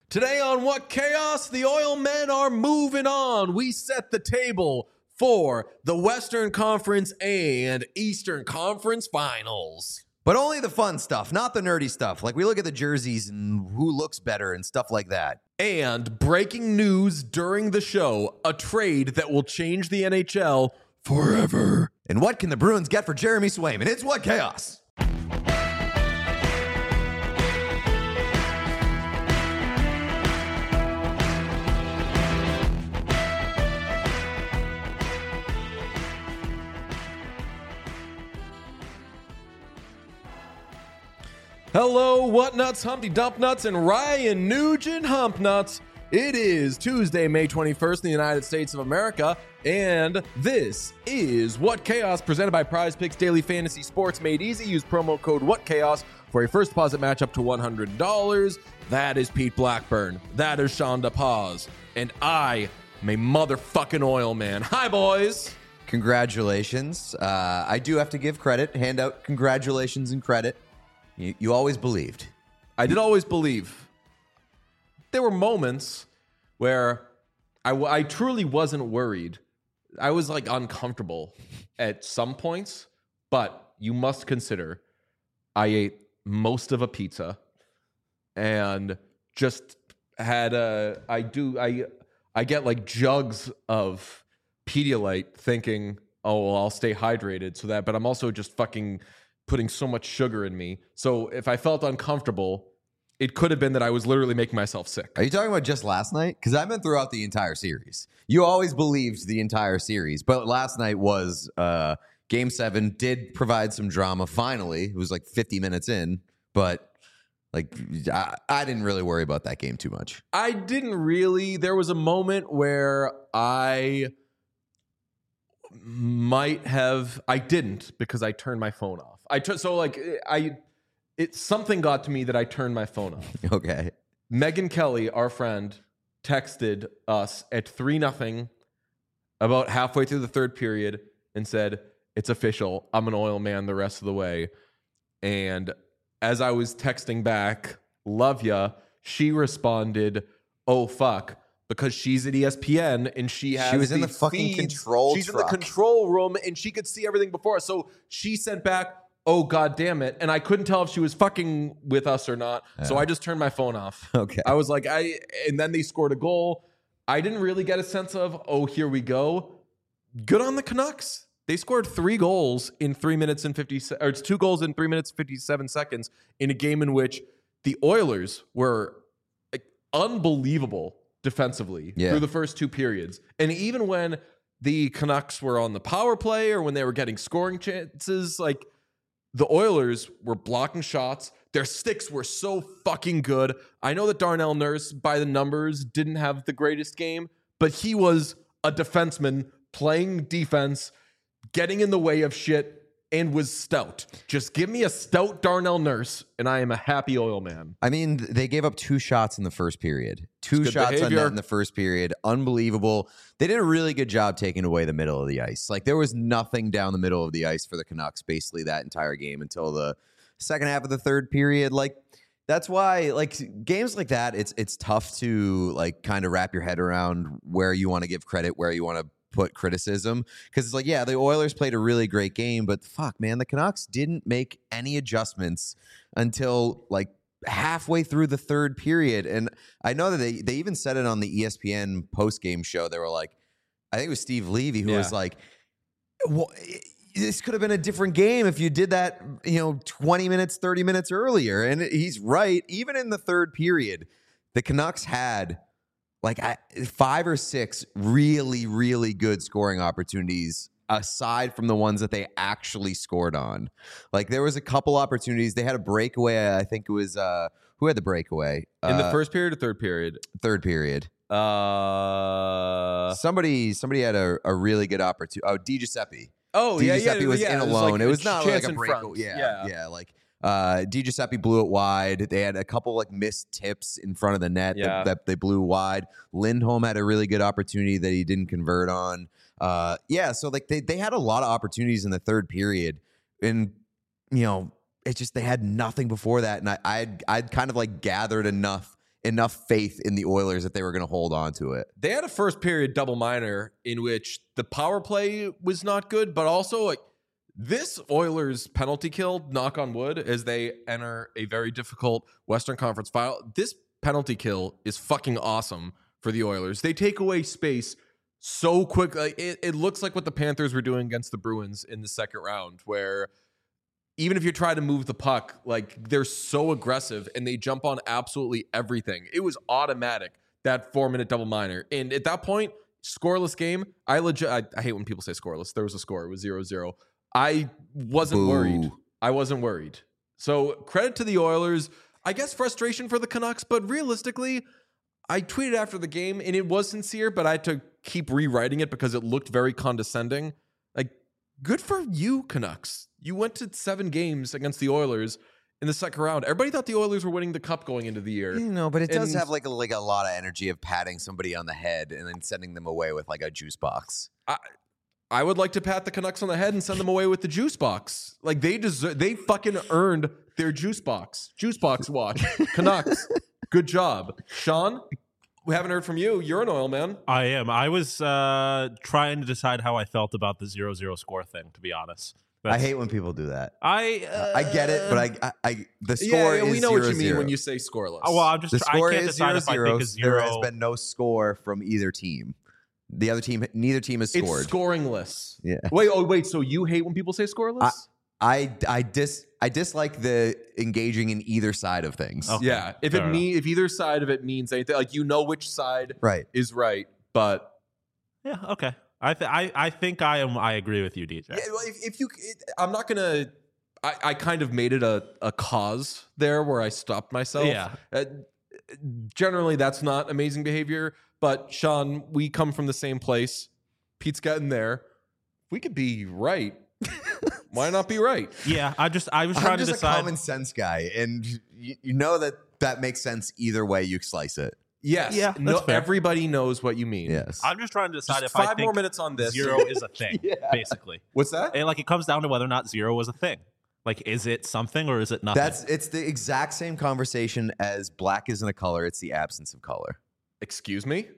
Today on What Chaos, the oil men are moving on. We set the table for the Western Conference and Eastern Conference Finals. But only the fun stuff, not the nerdy stuff. Like we look at the jerseys and who looks better and stuff like that. And breaking news during the show, a trade that will change the NHL forever. And what can the Bruins get for Jeremy Swayman? It's What Chaos. Hello, What Nuts, Humpty Dump Nuts, and Ryan Nugent Hump Nuts. It is Tuesday, May 21st in the United States of America, and this is What Chaos, presented by Prize Picks Daily Fantasy Sports Made Easy. Use promo code WhatChaos for a first deposit match up to $100. That is Pete Blackburn. That is Shonda Paz. And I am a motherfucking oil man. Hi, boys. Congratulations. I do have to give credit, hand out congratulations and credit. You always believed. I did always believe. There were moments where I truly wasn't worried. I was like uncomfortable at some points, but you must consider I ate most of a pizza and just had I get like jugs of Pedialyte thinking, oh, well, I'll stay hydrated so that, but I'm also just fucking putting so much sugar in me. So if I felt uncomfortable, it could have been that I was literally making myself sick. Are you talking about just last night? Because I meant throughout the entire series. You always believed the entire series, but last night was Game 7, did provide some drama finally. It was like 50 minutes in, but like I didn't really worry about that game too much. I didn't really. There was a moment where I didn't because I turned my phone off. Something got to me that I turned my phone off. Okay. Megan Kelly, our friend, texted us at 3-0 about halfway through the third period and said, "It's official. I'm an oil man the rest of the way." And as I was texting back, "Love ya," she responded, "Oh fuck." Because she's at ESPN and she was in the fucking control She's truck. in the control room and she could see everything before us. So she sent back, "Oh, God damn it." And I couldn't tell if she was fucking with us or not. So I just turned my phone off. Okay. I was like, and then they scored a goal. I didn't really get a sense of, oh, here we go. Good on the Canucks. They scored 3 goals in 3 minutes and 2 goals in 3 minutes, 57 seconds in a game in which the Oilers were unbelievable defensively through the first 2 periods. And even when the Canucks were on the power play or when they were getting scoring chances, like the Oilers were blocking shots. Their sticks were so fucking good. I know that Darnell Nurse, by the numbers, didn't have the greatest game, but he was a defenseman playing defense, getting in the way of shit, and was stout. Just give me a stout Darnell Nurse, and I am a happy oil man. I mean, they gave up 2 shots in the first period. 2 shots on net in the first period. Unbelievable. They did a really good job taking away the middle of the ice. Like, there was nothing down the middle of the ice for the Canucks basically that entire game until the second half of the third period. Like, that's why, like, games like that, it's tough to, like, kind of wrap your head around where you want to give credit, where you want to put criticism, because it's like, yeah, the Oilers played a really great game, but fuck, man, the Canucks didn't make any adjustments until like halfway through the third period. And I know that they even said it on the ESPN post-game show. They were like, I think it was Steve Levy who was like, well, this could have been a different game if you did that, 20 minutes, 30 minutes earlier. And he's right. Even in the third period, the Canucks had like 5 or 6 really, really good scoring opportunities aside from the ones that they actually scored on. Like, there was a couple opportunities. They had a breakaway. I think it was who had the breakaway? In the first period or third period? Third period. Somebody had a really good opportunity. Oh, DiGiuseppe. Oh, DiGiuseppe was in alone. Like it was not like a breakaway. Front. Yeah. Like DiGiuseppe blew it wide. They had a couple like missed tips in front of the net that they blew wide. Lindholm had a really good opportunity that he didn't convert on. So like they had a lot of opportunities in the third period, and it's just they had nothing before that. And I'd kind of like gathered enough enough faith in the Oilers that they were going to hold on to it. They had a first period double minor in which the power play was not good, but also like this Oilers penalty kill, knock on wood, as they enter a very difficult Western Conference final. This penalty kill is fucking awesome for the Oilers. They take away space so quick. Like, it looks like what the Panthers were doing against the Bruins in the second round, where even if you try to move the puck, like they're so aggressive and they jump on absolutely everything. It was automatic, that 4-minute double minor. And at that point, scoreless game. I hate when people say scoreless. There was a score. It was 0-0. I wasn't worried. I wasn't worried. So credit to the Oilers. I guess frustration for the Canucks, but realistically, I tweeted after the game and it was sincere, but I had to keep rewriting it because it looked very condescending. Like, good for you, Canucks. You went to 7 games against the Oilers in the second round. Everybody thought the Oilers were winning the cup going into the year. But it does have like a lot of energy of patting somebody on the head and then sending them away with like a juice box. I would like to pat the Canucks on the head and send them away with the juice box. Like they fucking earned their juice box. Juice box watch. Canucks. Good job. Sean, we haven't heard from you. You're an Oil man. I am. I was trying to decide how I felt about the 0-0 score thing, to be honest. I hate when people do that. I get it, but the score is 0-0. We know what you mean when you say scoreless. Well, I can't decide if I think it's 0. There has been no score from either team. Neither team has scored. It's scoringless. Yeah. Wait. So you hate when people say scoreless? I dislike the engaging in either side of things. Okay. Yeah. If either side of it means anything, like which side is right, but yeah, okay. I think I agree with you, DJ. Yeah, I'm not gonna. I kind of made it a cause there where I stopped myself. Yeah. Generally, that's not amazing behavior. But Sean, we come from the same place. Pete's getting there. We could be right. Why not be right? Yeah, I was trying to decide. I'm just a common sense guy, and you know that makes sense either way you slice it. Yes. Yeah, that's fair. Everybody knows what you mean. Yes. I'm just trying to decide Just if I 5 think more minutes on this. 0 is a thing, basically. What's that? And it comes down to whether or not 0 was a thing. Like, is it something or is it nothing? It's the exact same conversation as black isn't a color; it's the absence of color. Excuse me?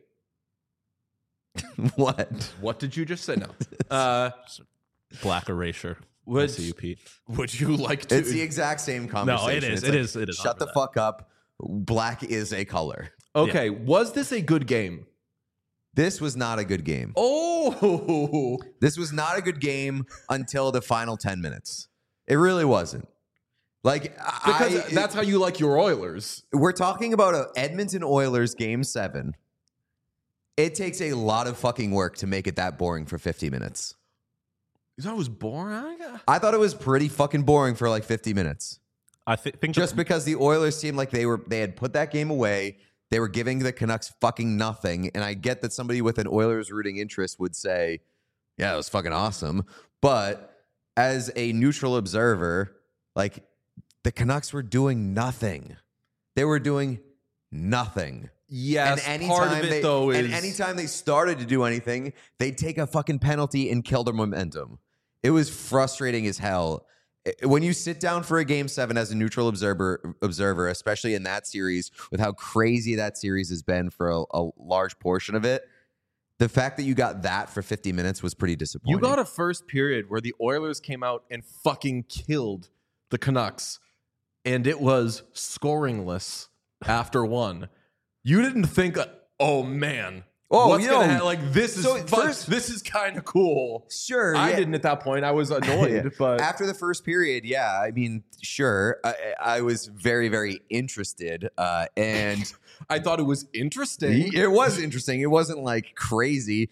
What? What did you just say? No. Black erasure. Would I see you, Pete. Would you like to? It's the exact same conversation. No, it is. It's It is. Shut the fuck up. Black is a color. Okay. Was this a good game? This was not a good game. Oh. This was not a good game until the final 10 minutes. It really wasn't. Like, because that's how you like your Oilers. We're talking about a Edmonton Oilers game 7. It takes a lot of fucking work to make it that boring for 50 minutes. You thought it was boring? I thought it was pretty fucking boring for like 50 minutes. I think just because the Oilers seemed like they had put that game away. They were giving the Canucks fucking nothing. And I get that somebody with an Oilers rooting interest would say, yeah, it was fucking awesome. But as a neutral observer, like, the Canucks were doing nothing. They were doing nothing. Yes, and part of it, though, is... And anytime they started to do anything, they'd take a fucking penalty and kill their momentum. It was frustrating as hell. When you sit down for a game 7 as a neutral observer, especially in that series, with how crazy that series has been for a large portion of it, the fact that you got that for 50 minutes was pretty disappointing. You got a first period where the Oilers came out and fucking killed the Canucks, and it was scoringless after 1. You didn't think, oh man, what's gonna like this is this is kind of cool. Sure, I didn't at that point. I was annoyed, but after the first period, yeah, I mean, sure, I was very, very interested, and I thought it was interesting. It was interesting. It wasn't like crazy.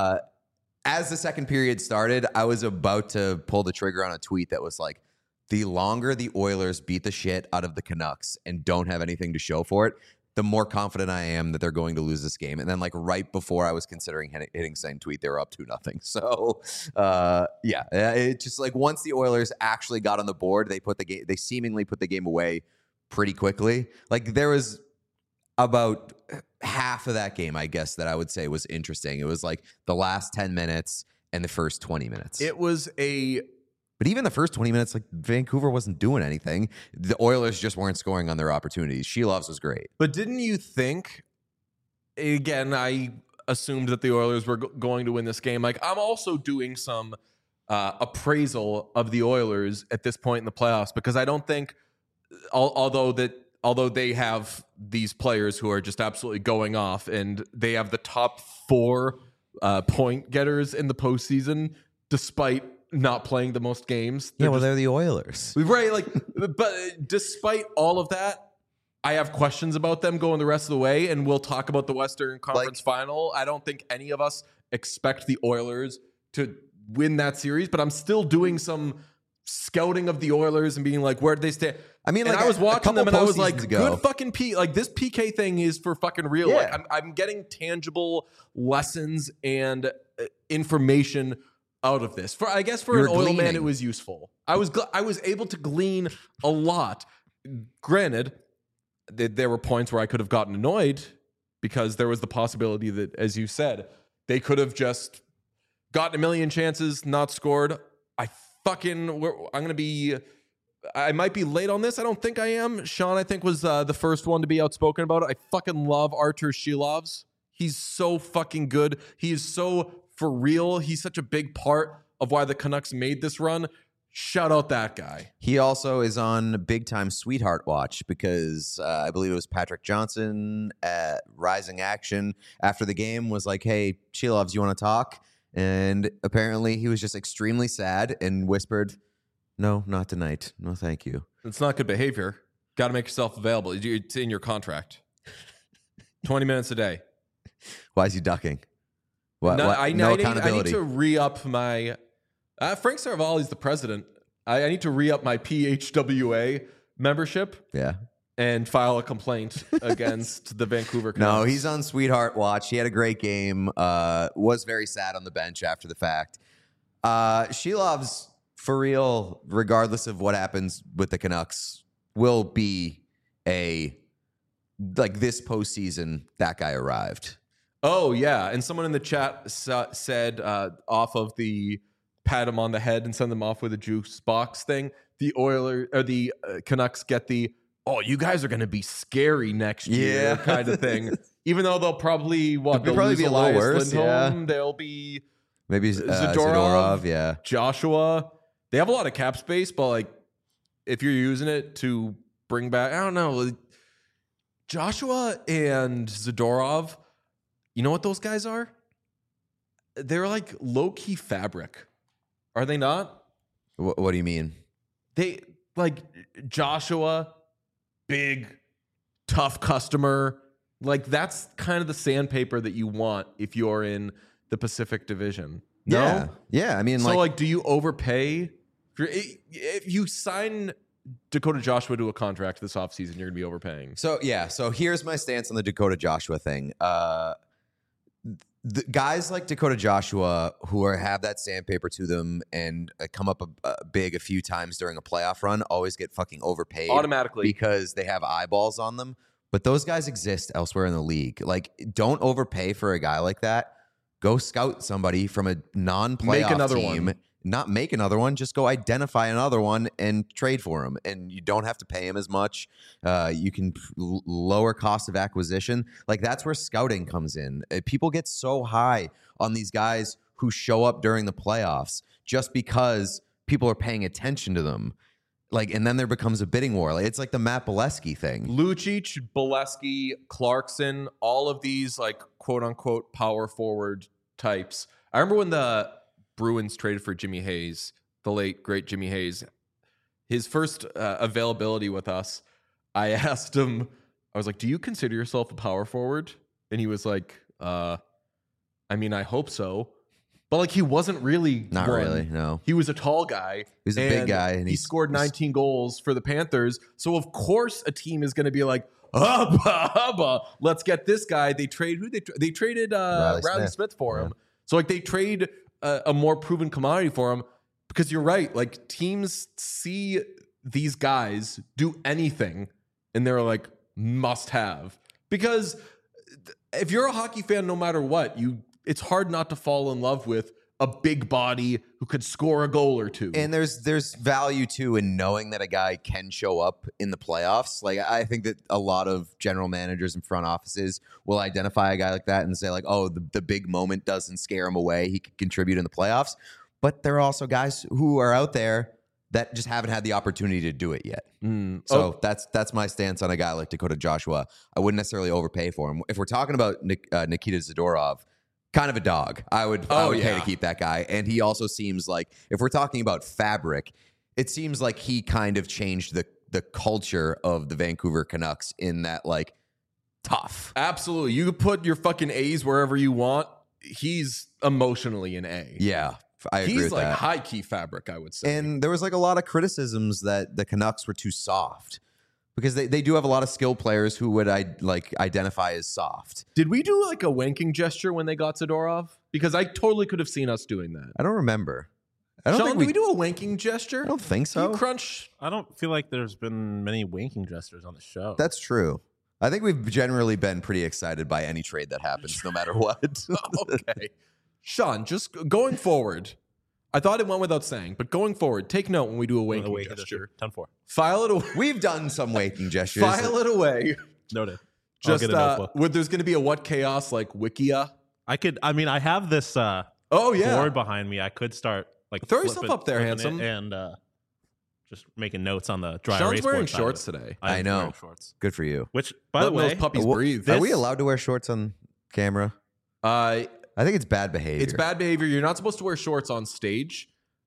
As the second period started, I was about to pull the trigger on a tweet that was like, the longer the Oilers beat the shit out of the Canucks and don't have anything to show for it, the more confident I am that they're going to lose this game. And then, like, right before I was considering hitting send tweet, they were up 2-0. So, yeah, it just like once the Oilers actually got on the board, they seemingly put the game away pretty quickly. Like, there was about half of that game, I guess, that I would say was interesting. It was like the last 10 minutes and the first 20 minutes. It was a But even the first 20 minutes, like Vancouver wasn't doing anything. The Oilers just weren't scoring on their opportunities. Shelov's was great. But didn't you think, again, I assumed that the Oilers were going to win this game. Like, I'm also doing some appraisal of the Oilers at this point in the playoffs, because I don't think, although they have these players who are just absolutely going off, and they have the top 4 point getters in the postseason, despite not playing the most games. They're the Oilers. Right. Like, but despite all of that, I have questions about them going the rest of the way, and we'll talk about the Western Conference Final. I don't think any of us expect the Oilers to win that series, but I'm still doing some scouting of the Oilers and being like, where did they stand? I mean, and I was watching them and I was like, ago. good fucking like this PK thing is for fucking real. Yeah. Like, I'm getting tangible lessons and information out of this. I guess for an oil man, it was useful. I was able to glean a lot. Granted, there were points where I could have gotten annoyed, because there was the possibility that, as you said, they could have just gotten a million chances, not scored. I might be late on this. I don't think I am. Sean, I think, was the first one to be outspoken about it. I fucking love Artur Shelovs. He's so fucking good. He is so for real. He's such a big part of why the Canucks made this run. Shout out that guy. He also is on big time sweetheart watch, because I believe it was Patrick Johnson at Rising Action after the game was like, hey, Shelovs, you want to talk? And apparently he was just extremely sad and whispered, no, not tonight. No, thank you. It's not good behavior. Got to make yourself available. It's in your contract. 20 minutes a day. Why is he ducking? No accountability. I need to re-up my... Frank Saravalli's the president. I need to re-up my PHWA membership. Yeah. And file a complaint against the Vancouver Canucks. No, he's on sweetheart watch. He had a great game. Was very sad on the bench after the fact. Shelovs, for real, regardless of what happens with the Canucks, will be this postseason, that guy arrived. Oh, yeah. And someone in the chat said, off of the pat him on the head and send them off with a juice box thing, the Canucks get the, oh, you guys are going to be scary next year kind of thing. Even though they'll probably, they'll probably be a little worse. Lindholm, they'll be maybe Zadorov, yeah. Joshua. They have a lot of cap space, but like, if you're using it to bring back, I don't know, Joshua and Zadorov, you know what those guys are? They're like low-key fabric. Are they not? What do you mean? They, like, Joshua, big, tough customer. Like, that's kind of the sandpaper that you want if you're in the Pacific Division. No? Yeah. I mean, so, do you overpay? If you sign Dakota Joshua to a contract this offseason, you're going to be overpaying. So here's my stance on the Dakota Joshua thing. The guys like Dakota Joshua who have that sandpaper to them and come up big a few times during a playoff run always get fucking overpaid automatically because they have eyeballs on them. But those guys exist elsewhere in the league. Like, don't overpay for a guy like that. Go scout somebody from a non-playoff team. One. Not make another one. Just go identify another one and trade for him. And you don't have to pay him as much. You can lower cost of acquisition. Like, that's where scouting comes in. People get so high on these guys who show up during the playoffs just because people are paying attention to them. Like, and then there becomes a bidding war. Like, it's like the Matt Bolesky thing. Lucic, Bolesky, Clarkson, all of these, like, quote unquote power forward types. I remember when the Bruins traded for Jimmy Hayes, the late great Jimmy Hayes. His first availability with us, I asked him, I was like, do you consider yourself a power forward? And he was like, I mean, I hope so. But like, he wasn't really. Not one. Really, no. He was a tall guy. He's a big guy. And he scored 19 goals for the Panthers. So of course a team is going to be like, hubba, let's get this guy. They traded Riley Smith for him. So like, they trade a more proven commodity for him, because you're right. Like, teams see these guys do anything and they're like, must have. Because if you're a hockey fan, no matter what, it's hard not to fall in love with a big body who could score a goal or two. And there's value too in knowing that a guy can show up in the playoffs. Like I think that a lot of general managers and front offices will identify a guy like that and say like, oh, the big moment doesn't scare him away. He could contribute in the playoffs. But there are also guys who are out there that just haven't had the opportunity to do it yet. So that's my stance on a guy like Dakota Joshua. I wouldn't necessarily overpay for him. If we're talking about Nikita Zadorov, kind of a dog. I would pay to keep that guy. And he also seems like, if we're talking about fabric, it seems like he kind of changed the culture of the Vancouver Canucks in that, like, tough. Absolutely. You could put your fucking A's wherever you want. He's emotionally an A. Yeah, I agree with that. He's like high-key fabric, I would say. And there was like a lot of criticisms that the Canucks were too soft. Because they do have a lot of skilled players who would identify as soft. Did we do like a wanking gesture when they got Zadorov? Because I totally could have seen us doing that. I don't remember. Sean, did we do a wanking gesture? I don't think so. You crunch. I don't feel like there's been many wanking gestures on the show. That's true. I think we've generally been pretty excited by any trade that happens, no matter what. Okay. Sean, just going forward, I thought it went without saying, but going forward, take note when we do a wanking gesture. 10-4. File it away. We've done some wanking gestures. File it away. Noted. Just there's going to be a what chaos like Wikia. I have this board behind me. I could start like throw yourself up there, handsome, and just making notes on the dry Sean's erase wearing board shorts today. I know. Wearing shorts. Good for you. Which, by the way, those puppies breathe. Are we allowed to wear shorts on camera? I think it's bad behavior. It's bad behavior. You're not supposed to wear shorts on stage.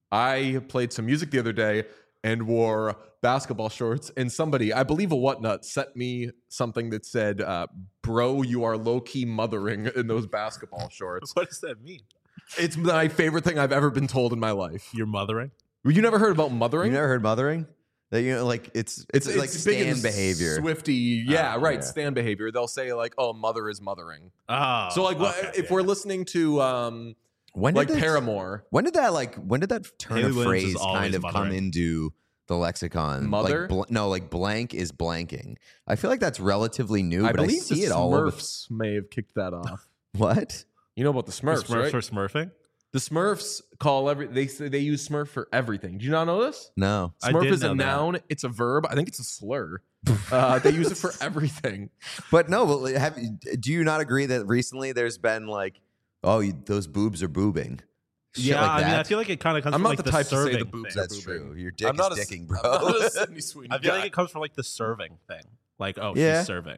I played some music the other day and wore basketball shorts, and somebody, I believe a whatnut, sent me something that said, bro, you are low-key mothering in those basketball shorts. What does that mean? It's my favorite thing I've ever been told in my life. You're mothering? You never heard about mothering? You never heard mothering? That, you know, like it's like stand behavior. Swifty, right. Stand behavior. They'll say like, "Oh, mother is mothering." Oh, so like, if we're listening to Paramore, when did that turn Haley of Williams phrase is always kind of mothering. come into the lexicon? Mother? Like blank is blanking. I feel like that's relatively new, but I believe see the it all over. Smurfs may have kicked that off. What? You know about the Smurfs, The Smurfs right? are smurfing? The Smurfs they use Smurf for everything. Do you not know this? No. I Smurf did is a know that. noun. It's a verb. I think it's a slur. They use it for everything. But no, do you not agree that recently there's been like, those boobs are boobing? Shit Yeah, like that? I feel like it kind of comes I'm from not like the type to say serving the boobs thing. are That's boobing. true. Your dick I'm is not dicking, a, bro. I'm not a Sydney Sweeney I feel guy. like it comes from like the serving thing. Like, Yeah. she's serving.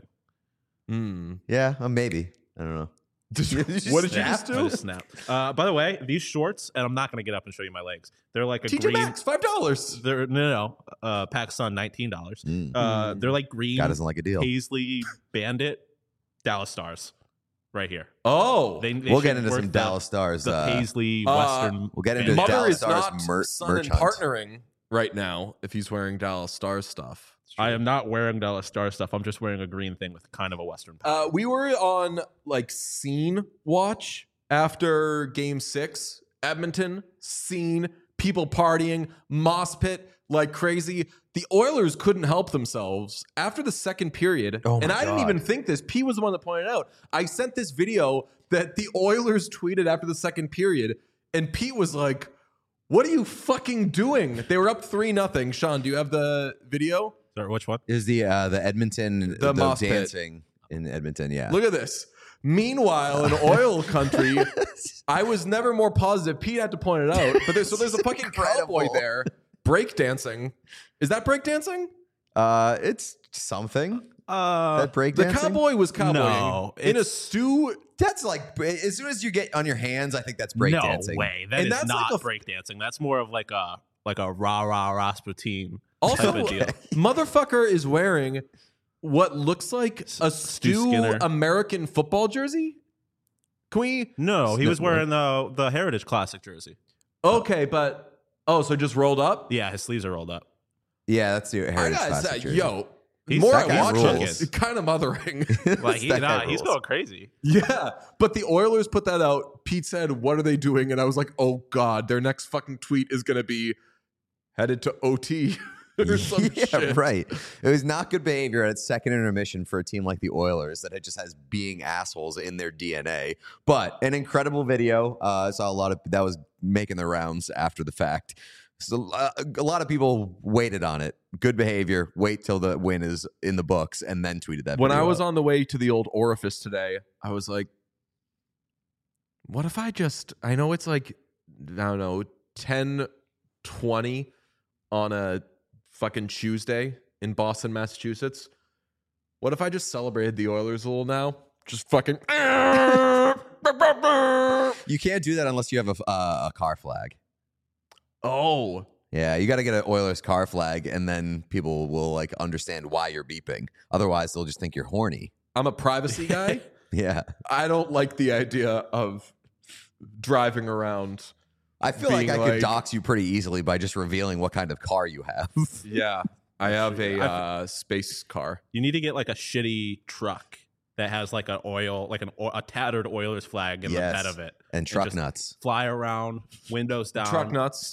Yeah, maybe. I don't know. What did you just I do? just snapped. By the way, these shorts, and I'm not going to get up and show you my legs. They're like a TJ green. Maxx, $5. They're no. Pakistan, $19. They're like green. God doesn't like a deal. Paisley Bandit, Dallas Stars, right here. Oh, They We'll get should into worth some Dallas Stars. The Paisley Western. We'll get into Bandit. Mother Dallas is Stars not son merch and hunt. partnering right now if he's wearing Dallas Stars stuff. I am not wearing Dallas Stars stuff. I'm just wearing a green thing with kind of a Western pattern. We were on like scene watch after Game 6. Edmonton, scene, people partying, mosh pit like crazy. The Oilers couldn't help themselves after the second period. Oh my and I didn't God. even think this. P was the one that pointed it out. I sent this video that the Oilers tweeted after the second period, and Pete was like, "What are you fucking doing?" They were up 3-0. Sean, do you have the video? Sorry, which one? Is the Edmonton The mosh pit. dancing in Edmonton? Yeah. Look at this. Meanwhile, in oil country, I was never more positive. Pete had to point it out. But there's a fucking cowboy there breakdancing. Is that breakdancing? It's something. That breakdancing. The cowboy was cowboying No, in a it's- stew. That's like as soon as you get on your hands, I think that's breakdancing. No way. That And is that's not like a- breakdancing. That's more of like a rah Rasputin Also, type of deal. motherfucker is wearing what looks like a Stu Skinner. American football jersey. Can we? No, he was wearing the Heritage Classic jersey. Okay, but so just rolled up. Yeah, his sleeves are rolled up. Yeah, that's the I Heritage gotta Classic say, jersey. yo, He's more that I guy watch rules. it, kind of mothering. Like That guy he's rules. going crazy. Yeah, but the Oilers put that out. Pete said, "What are they doing?" And I was like, "Oh God, their next fucking tweet is gonna be headed to OT." or some shit. Right. It was not good behavior at second intermission for a team like the Oilers that just has being assholes in their DNA. But an incredible video. I saw a lot of that was making the rounds after the fact. So a lot of people waited on it. Good behavior. Wait till the win is in the books and then tweeted that. When I video was out. on the way to the old orifice today, I was like, what if I know it's like, I don't know, 10:20 on a fucking Tuesday in Boston, Massachusetts. What if I just celebrated the Oilers a little now? Just fucking. You can't do that unless you have a car flag. Oh. Yeah, you got to get an Oilers car flag, and then people will like understand why you're beeping. Otherwise, they'll just think you're horny. I'm a privacy guy. Yeah, I don't like the idea of driving around. I feel like I could dox you pretty easily by just revealing what kind of car you have. Yeah, I have a space car. You need to get like a shitty truck that has like a tattered Oilers flag in the bed of it, and truck just nuts. Fly around, windows down, Truck nuts,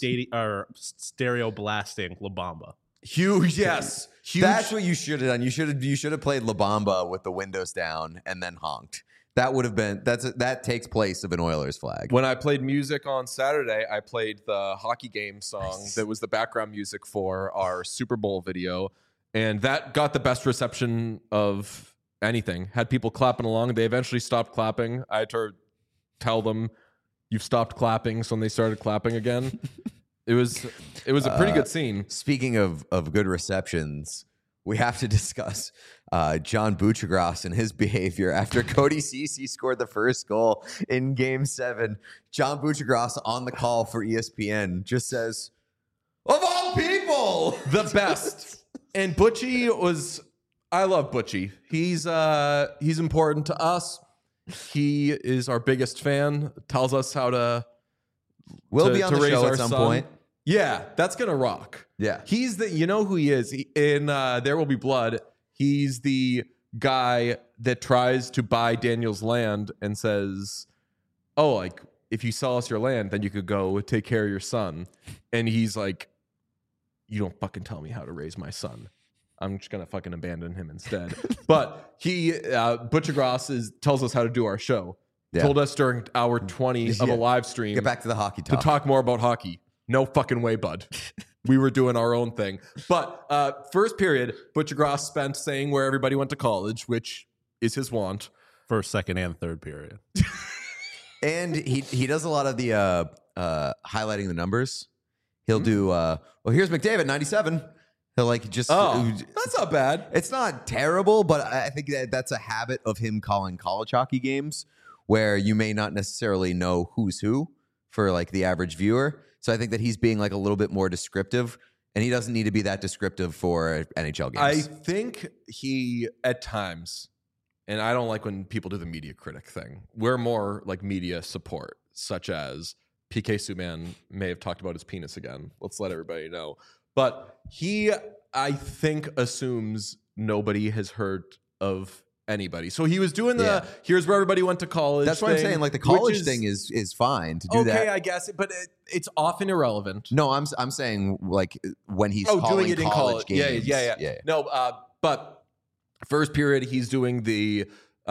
stereo blasting La Bamba. Huge, yes, huge. That's what you should have done. You should have played La Bamba with the windows down and then honked. That would have been that takes place of an Oilers flag. When I played music on Saturday, I played the hockey game song that was the background music for our Super Bowl video, and that got the best reception of anything. Had people clapping along. They eventually stopped clapping. I had to tell them, "You've stopped clapping," so when they started clapping again, it was a pretty good scene. Speaking of good receptions, we have to discuss John Buccigross and his behavior after Cody Ceci scored the first goal in Game 7. John Buccigross on the call for ESPN just says, "Of all people, The best." And Butchie was. I love Butchie. He's important to us. He is our biggest fan. Tells us how to. We'll be on the raise show our at some son. point." Yeah, that's gonna rock. Yeah. He's the. You know who he is in There Will Be Blood. He's the guy that tries to buy Daniel's land and says, "Oh, like if you sell us your land, then you could go take care of your son." And he's like, "You don't fucking tell me how to raise my son. I'm just gonna fucking abandon him instead." But Buccigross tells us how to do our show. Yeah. Told us during hour 20 of a live stream Get back to the hockey to talk. talk more about hockey. No fucking way, bud. We were doing our own thing. But first period, Buccigross spent saying where everybody went to college, which is his want. First, second, and third period. And he does a lot of the highlighting the numbers. He'll do, well, here's McDavid, 97. He'll like just. That's not bad. It's not terrible, but I think that's a habit of him calling college hockey games where you may not necessarily know who's who for like the average viewer. So I think that he's being like a little bit more descriptive, and he doesn't need to be that descriptive for NHL games. I think he, at times, and I don't like when people do the media critic thing. We're more like media support, such as PK Subban may have talked about his penis again. Let's let everybody know. But he, I think, assumes nobody has heard of anybody. So he was doing the here's where everybody went to college. That's what I'm saying. Like the college thing is fine to do that. Okay, I guess, but it's often irrelevant. No, I'm saying like when he's doing it in college games. Yeah. No, but first period he's doing the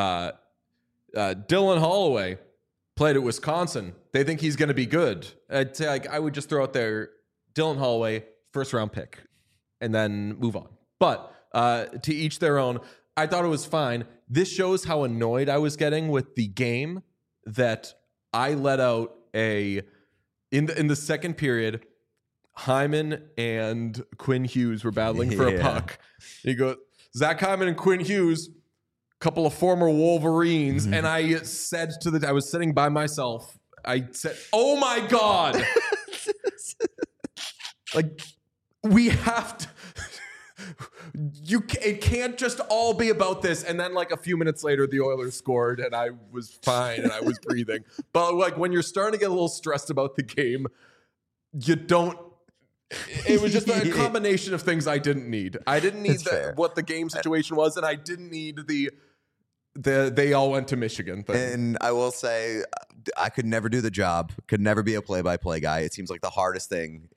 Dylan Holloway played at Wisconsin. They think he's going to be good. I'd say I would just throw out there Dylan Holloway, first round pick, and then move on. But to each their own. I thought it was fine. This shows how annoyed I was getting with the game that I let out in the second period. Hyman and Quinn Hughes were battling for a puck. You go, Zach Hyman and Quinn Hughes, couple of former Wolverines, and I said I was sitting by myself. I said, "Oh my God!" Like we have to. It can't just all be about this. And then like a few minutes later, the Oilers scored and I was fine and I was breathing. But like when you're starting to get a little stressed about the game, you don't. It was just a combination of things I didn't need. I didn't need what the game situation was, and I didn't need the they all went to Michigan thing. And I will say, I could never do the job. Could never be a play-by-play guy. It seems like the hardest thing in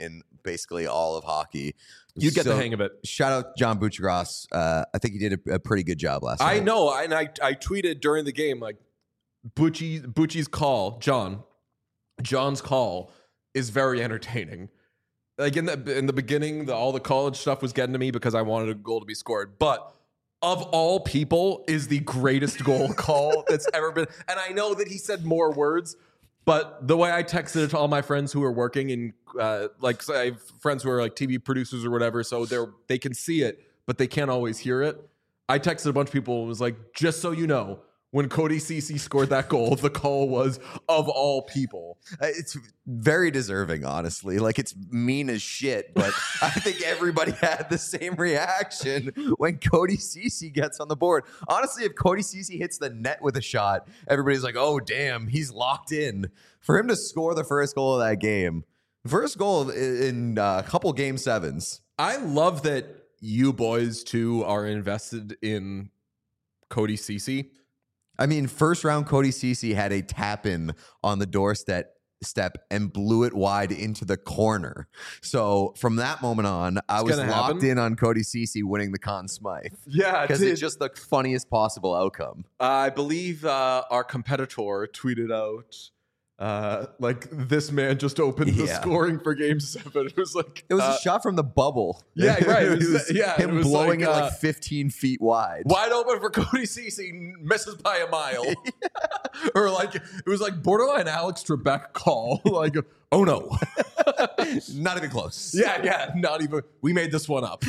basically all of hockey. You get the hang of it. Shout out John Buccigross. I think he did a pretty good job last night. I know, and I tweeted during the game, like, Bucci's call, John's call is very entertaining. Like in the beginning, all the college stuff was getting to me because I wanted a goal to be scored. But of all people, is the greatest goal call that's ever been. And I know that he said more words, but the way I texted it to all my friends who are working in, like, I have friends who are like TV producers or whatever, so they can see it, but they can't always hear it. I texted a bunch of people and was like, just so you know, when Cody Ceci scored that goal, the call was of all people. It's very deserving, honestly. Like, it's mean as shit, but I think everybody had the same reaction when Cody Ceci gets on the board. Honestly, if Cody Ceci hits the net with a shot, everybody's like, oh, damn, he's locked in. For him to score the first goal of that game, first goal in a couple game sevens. I love that you boys, too, are invested in Cody Ceci. I mean, first round, Cody Ceci had a tap in on the doorstep and blew it wide into the corner. So from that moment on, I was locked in on Cody Ceci winning the Conn Smythe. Yeah, because it's just the funniest possible outcome. I believe our competitor tweeted out, like, this man just opened the scoring for Game 7. It was like a shot from the bubble. Yeah, right. It was him blowing it like 15 feet wide. Wide open for Cody Ceci, misses by a mile. Or like, it was like borderline Alex Trebek call. Like, oh no. Not even close. Yeah, not even. We made this one up.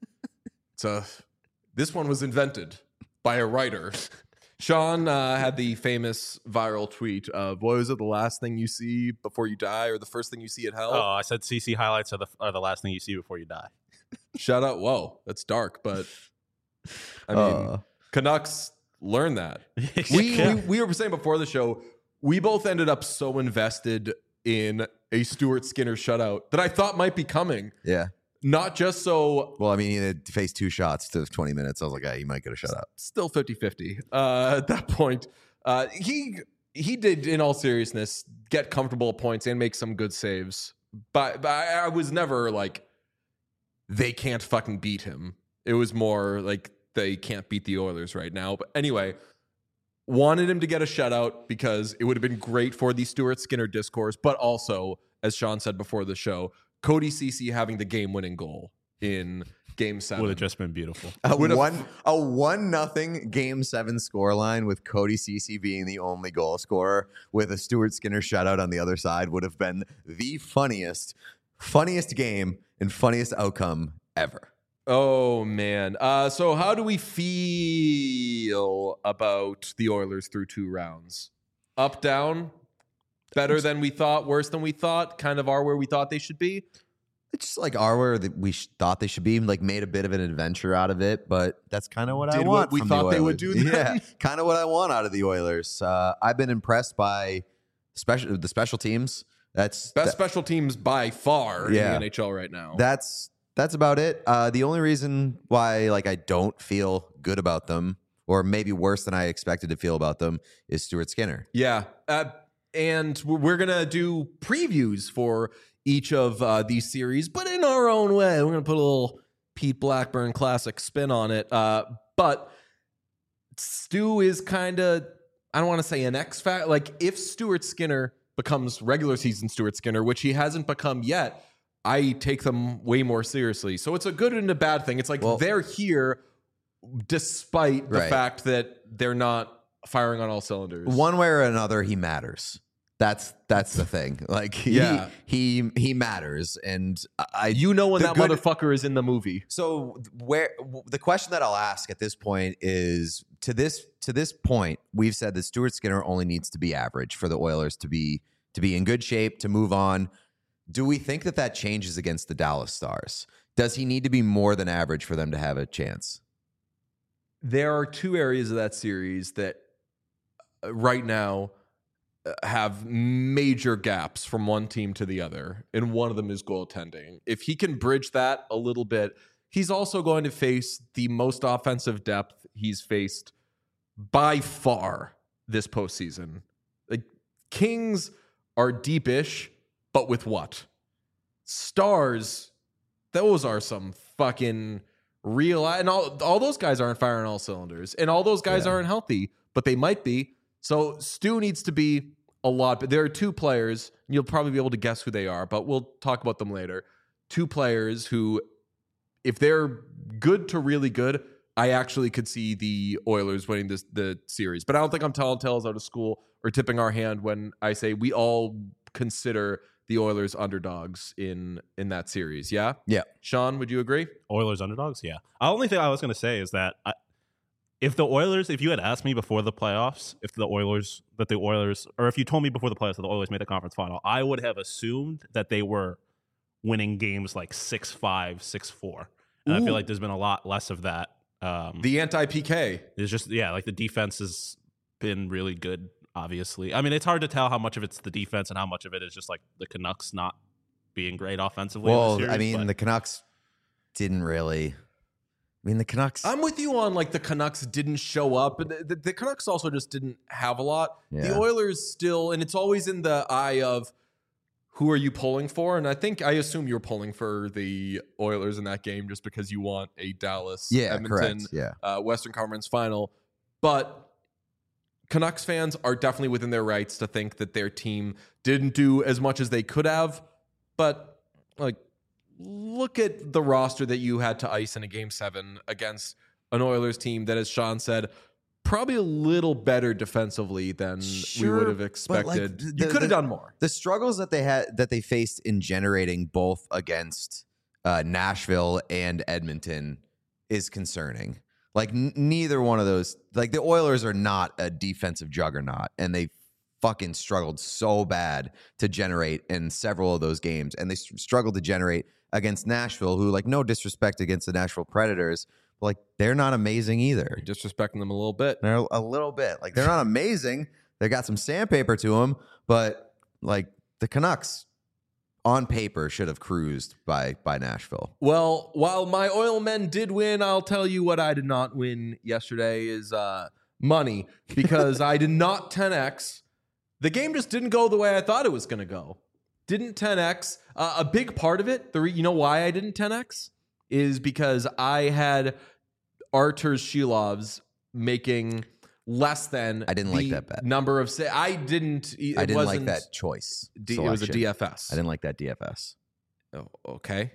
So this one was invented by a writer. Sean had the famous viral tweet of, what was it, the last thing you see before you die, or the first thing you see at hell? Oh, I said CC highlights are the last thing you see before you die. Shout out. Whoa, that's dark, but I mean, Canucks learn that. We were saying before the show, we both ended up so invested in a Stuart Skinner shutout that I thought might be coming. Yeah. Not just so... Well, I mean, he had faced 2 shots to 20 minutes. I was like, he might get a shutout. Still 50-50. At that point, he did, in all seriousness, get comfortable points and make some good saves. But I was never like, they can't fucking beat him. It was more like, they can't beat the Oilers right now. But anyway, wanted him to get a shutout because it would have been great for the Stuart Skinner discourse. But also, as Sean said before the show, Cody Ceci having the game-winning goal in Game 7 would have just been beautiful. A 1-0 Game 7 scoreline with Cody Ceci being the only goal scorer with a Stuart Skinner shutout on the other side would have been the funniest game and funniest outcome ever. Oh, man. So how do we feel about the Oilers through 2 rounds? Up, down? Better than we thought, worse than we thought, kind of are where we thought they should be? It's just like are where we thought they should be, like made a bit of an adventure out of it, but that's kind of what I want. What we thought they would do then? Yeah, kind of what I want out of the Oilers. I've been impressed by the special teams. Best special teams by far in the NHL right now. That's about it. The only reason why I don't feel good about them, or maybe worse than I expected to feel about them, is Stuart Skinner. Yeah. And we're going to do previews for each of these series, but in our own way. We're going to put a little Pete Blackburn classic spin on it. But Stu is kind of, I don't want to say an X factor. Like, if Stuart Skinner becomes regular season Stuart Skinner, which he hasn't become yet, I take them way more seriously. So it's a good and a bad thing. It's like they're here despite the fact that they're not firing on all cylinders. One way or another, he matters. That's the thing. Like, he matters, and when that motherfucker is in the movie. So the question that I'll ask at this point is, to this point, we've said that Stuart Skinner only needs to be average for the Oilers to be in good shape to move on. Do we think that changes against the Dallas Stars? Does he need to be more than average for them to have a chance? There are 2 areas of that series that right now have major gaps from one team to the other, and one of them is goaltending. If he can bridge that a little bit, he's also going to face the most offensive depth he's faced by far this postseason. Like, Kings are deepish, but with what? Stars, those are some fucking real, and all those guys aren't firing all cylinders, and all those guys aren't healthy, but they might be. So Stu needs to be a lot, but there are two players, and you'll probably be able to guess who they are, but we'll talk about them later. Two players who, if they're good to really good, I actually could see the Oilers winning the series. But I don't think I'm telling tales out of school or tipping our hand when I say we all consider the Oilers underdogs in that series. Yeah? Yeah. Sean, would you agree? Oilers underdogs? Yeah. The only thing I was going to say is that if you had asked me before the playoffs, if you told me before the playoffs that the Oilers made the conference final, I would have assumed that they were winning games like 6-5, 6-4. And I feel like there's been a lot less of that. The anti-PK. It's just, like the defense has been really good, obviously. I mean, it's hard to tell how much of it's the defense and how much of it is just like the Canucks not being great offensively. Well, in the series, the Canucks didn't really. The Canucks. I'm with you on like the Canucks didn't show up. The Canucks also just didn't have a lot. Yeah. The Oilers still, and it's always in the eye of who are you pulling for? And I assume you're pulling for the Oilers in that game just because you want a Dallas, Edmonton, Western Conference final. But Canucks fans are definitely within their rights to think that their team didn't do as much as they could have. But like, look at the roster that you had to ice in a Game 7 against an Oilers team that, as Sean said, probably a little better defensively than we would have expected. You could have done more. The struggles that they faced in generating both against Nashville and Edmonton is concerning. Like neither one of those, like the Oilers are not a defensive juggernaut, and they fucking struggled so bad to generate in several of those games, and they struggled to generate against Nashville, who, like, no disrespect against the Nashville Predators, but like they're not amazing either. You're disrespecting them a little bit. They're a little bit. Like they're not amazing. They got some sandpaper to them, but like the Canucks on paper should have cruised by Nashville. Well, while my Oil men did win, I'll tell you what I did not win yesterday is money, because I did not 10x. The game just didn't go the way I thought it was going to go. Didn't 10x. A big part of it, you know why I didn't 10x? Is because I had Artur Shilovs making less than I didn't like that bet. Number of I didn't like that choice. It was a DFS. I didn't like that DFS. Oh, okay.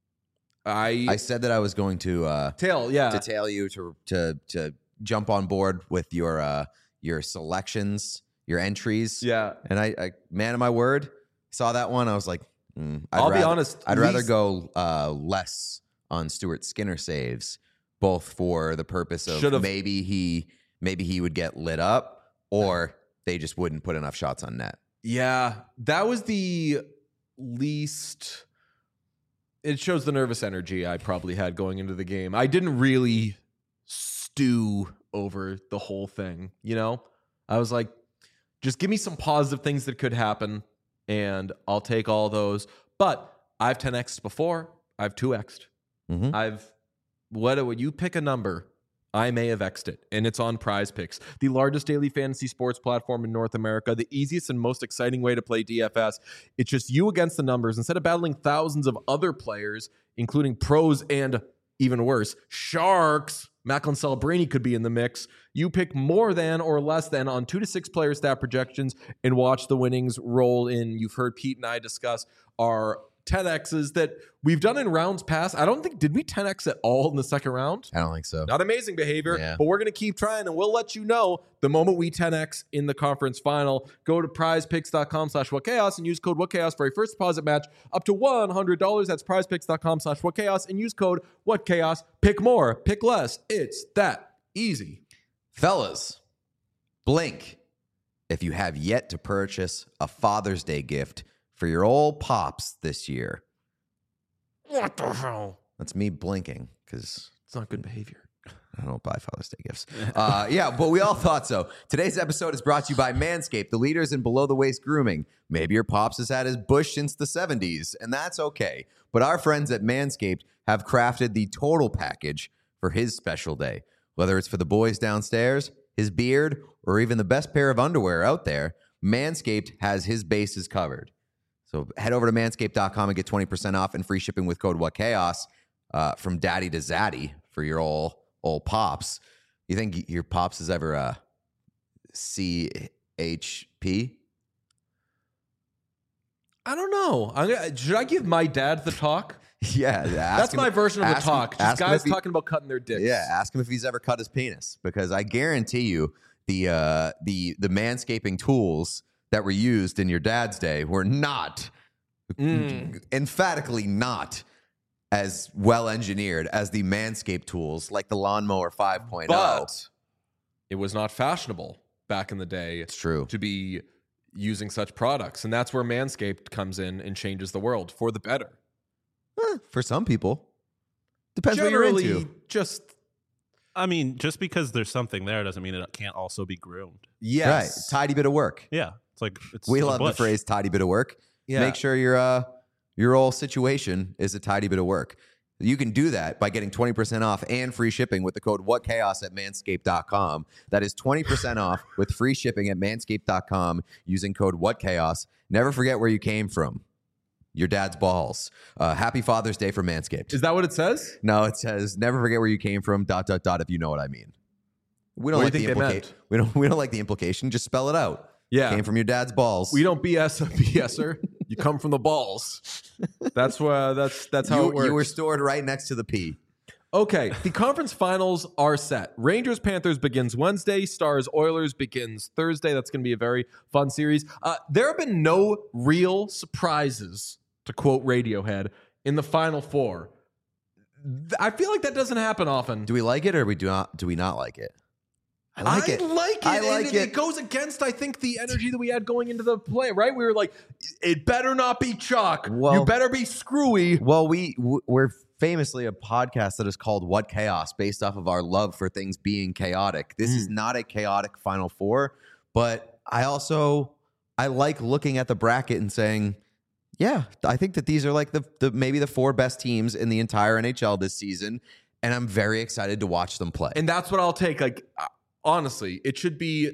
I said that I was going to tail you to jump on board with your selections, your entries. Yeah. And I man of my word, saw that one. I was like, I'll be honest. I'd rather go less on Stuart Skinner saves, both for the purpose of maybe he would get lit up, or they just wouldn't put enough shots on net. Yeah, that was the least. It shows the nervous energy I probably had going into the game. I didn't really stew over the whole thing, you know? I was like, just give me some positive things that could happen, and I'll take all those. But I've 10x'd before. I've 2x'd. When you pick a number, I may have X'd it, and it's on Prize Picks, the largest daily fantasy sports platform in North America, the easiest and most exciting way to play DFS. It's just you against the numbers. Instead of battling thousands of other players, including pros and, even worse, sharks, Macklin Celebrini could be in the mix. You pick more than or less than on 2 to 6 player stat projections and watch the winnings roll in. You've heard Pete and I discuss our 10x's that we've done in rounds past. I don't think, did we 10x at all in the second round? I don't think so. Not amazing behavior, but we're going to keep trying, and we'll let you know the moment we 10x in the conference final. Go to prizepicks.com/whatchaos and use code whatchaos for a first deposit match up to $100. That's prizepicks.com/whatchaos and use code whatchaos. Pick more, pick less. It's that easy. Fellas, blink if you have yet to purchase a Father's Day gift for your old pops this year. What the hell? That's me blinking because it's not good behavior. I don't buy Father's Day gifts. But we all thought so. Today's episode is brought to you by Manscaped, the leaders in below-the-waist grooming. Maybe your pops has had his bush since the 70s, and that's okay. But our friends at Manscaped have crafted the total package for his special day. Whether it's for the boys downstairs, his beard, or even the best pair of underwear out there, Manscaped has his bases covered. So head over to manscaped.com and get 20% off and free shipping with code WhatChaos from daddy to zaddy for your old pops. You think your pops is ever CHP? I don't know. Should I give my dad the talk? Yeah. That's my version of the talk. Just guys talking about cutting their dicks. Yeah, ask him if he's ever cut his penis, because I guarantee you the manscaping tools that were used in your dad's day were not, emphatically not, as well engineered as the Manscaped tools like the Lawnmower 5.0. But it was not fashionable back in the day. It's true. To be using such products, and that's where Manscaped comes in and changes the world for the better. For some people, depends Generally, what you're into. Just because there's something there doesn't mean it can't also be groomed. yes, Right, tidy bit of work. Yeah, We a love the bush. phrase "tidy bit of work." Yeah. Make sure your whole situation is a tidy bit of work. You can do that by getting 20% off and free shipping with the code WhatChaos at manscaped.com. That is 20% off with free shipping at manscaped.com using code WhatChaos. Never forget where you came from. Your dad's balls. Happy Father's Day for Manscaped. Is that what it says? No, it says never forget where you came from. ... If you know what I mean. We don't What do like you the think they implication. We don't like the implication. Just spell it out. Yeah. Came from your dad's balls. We don't BS a BSer. You come from the balls. That's how it works. You were stored right next to the P. Okay, the conference finals are set. Rangers-Panthers begins Wednesday. Stars-Oilers begins Thursday. That's going to be a very fun series. There have been no real surprises, to quote Radiohead, in the Final Four. I feel like that doesn't happen often. Do we like it or do we not like it? I like it. I like it. It goes against, I think, the energy that we had going into the play, right? We were like, it better not be chalk. Well- You better be screwy. Well, we're famously a podcast that is called What Chaos, based off of our love for things being chaotic. This is not a chaotic Final Four, but I like looking at the bracket and saying, yeah, I think that these are like the maybe the four best teams in the entire NHL this season, and I'm very excited to watch them play. And that's what I'll take. Like, honestly, it should be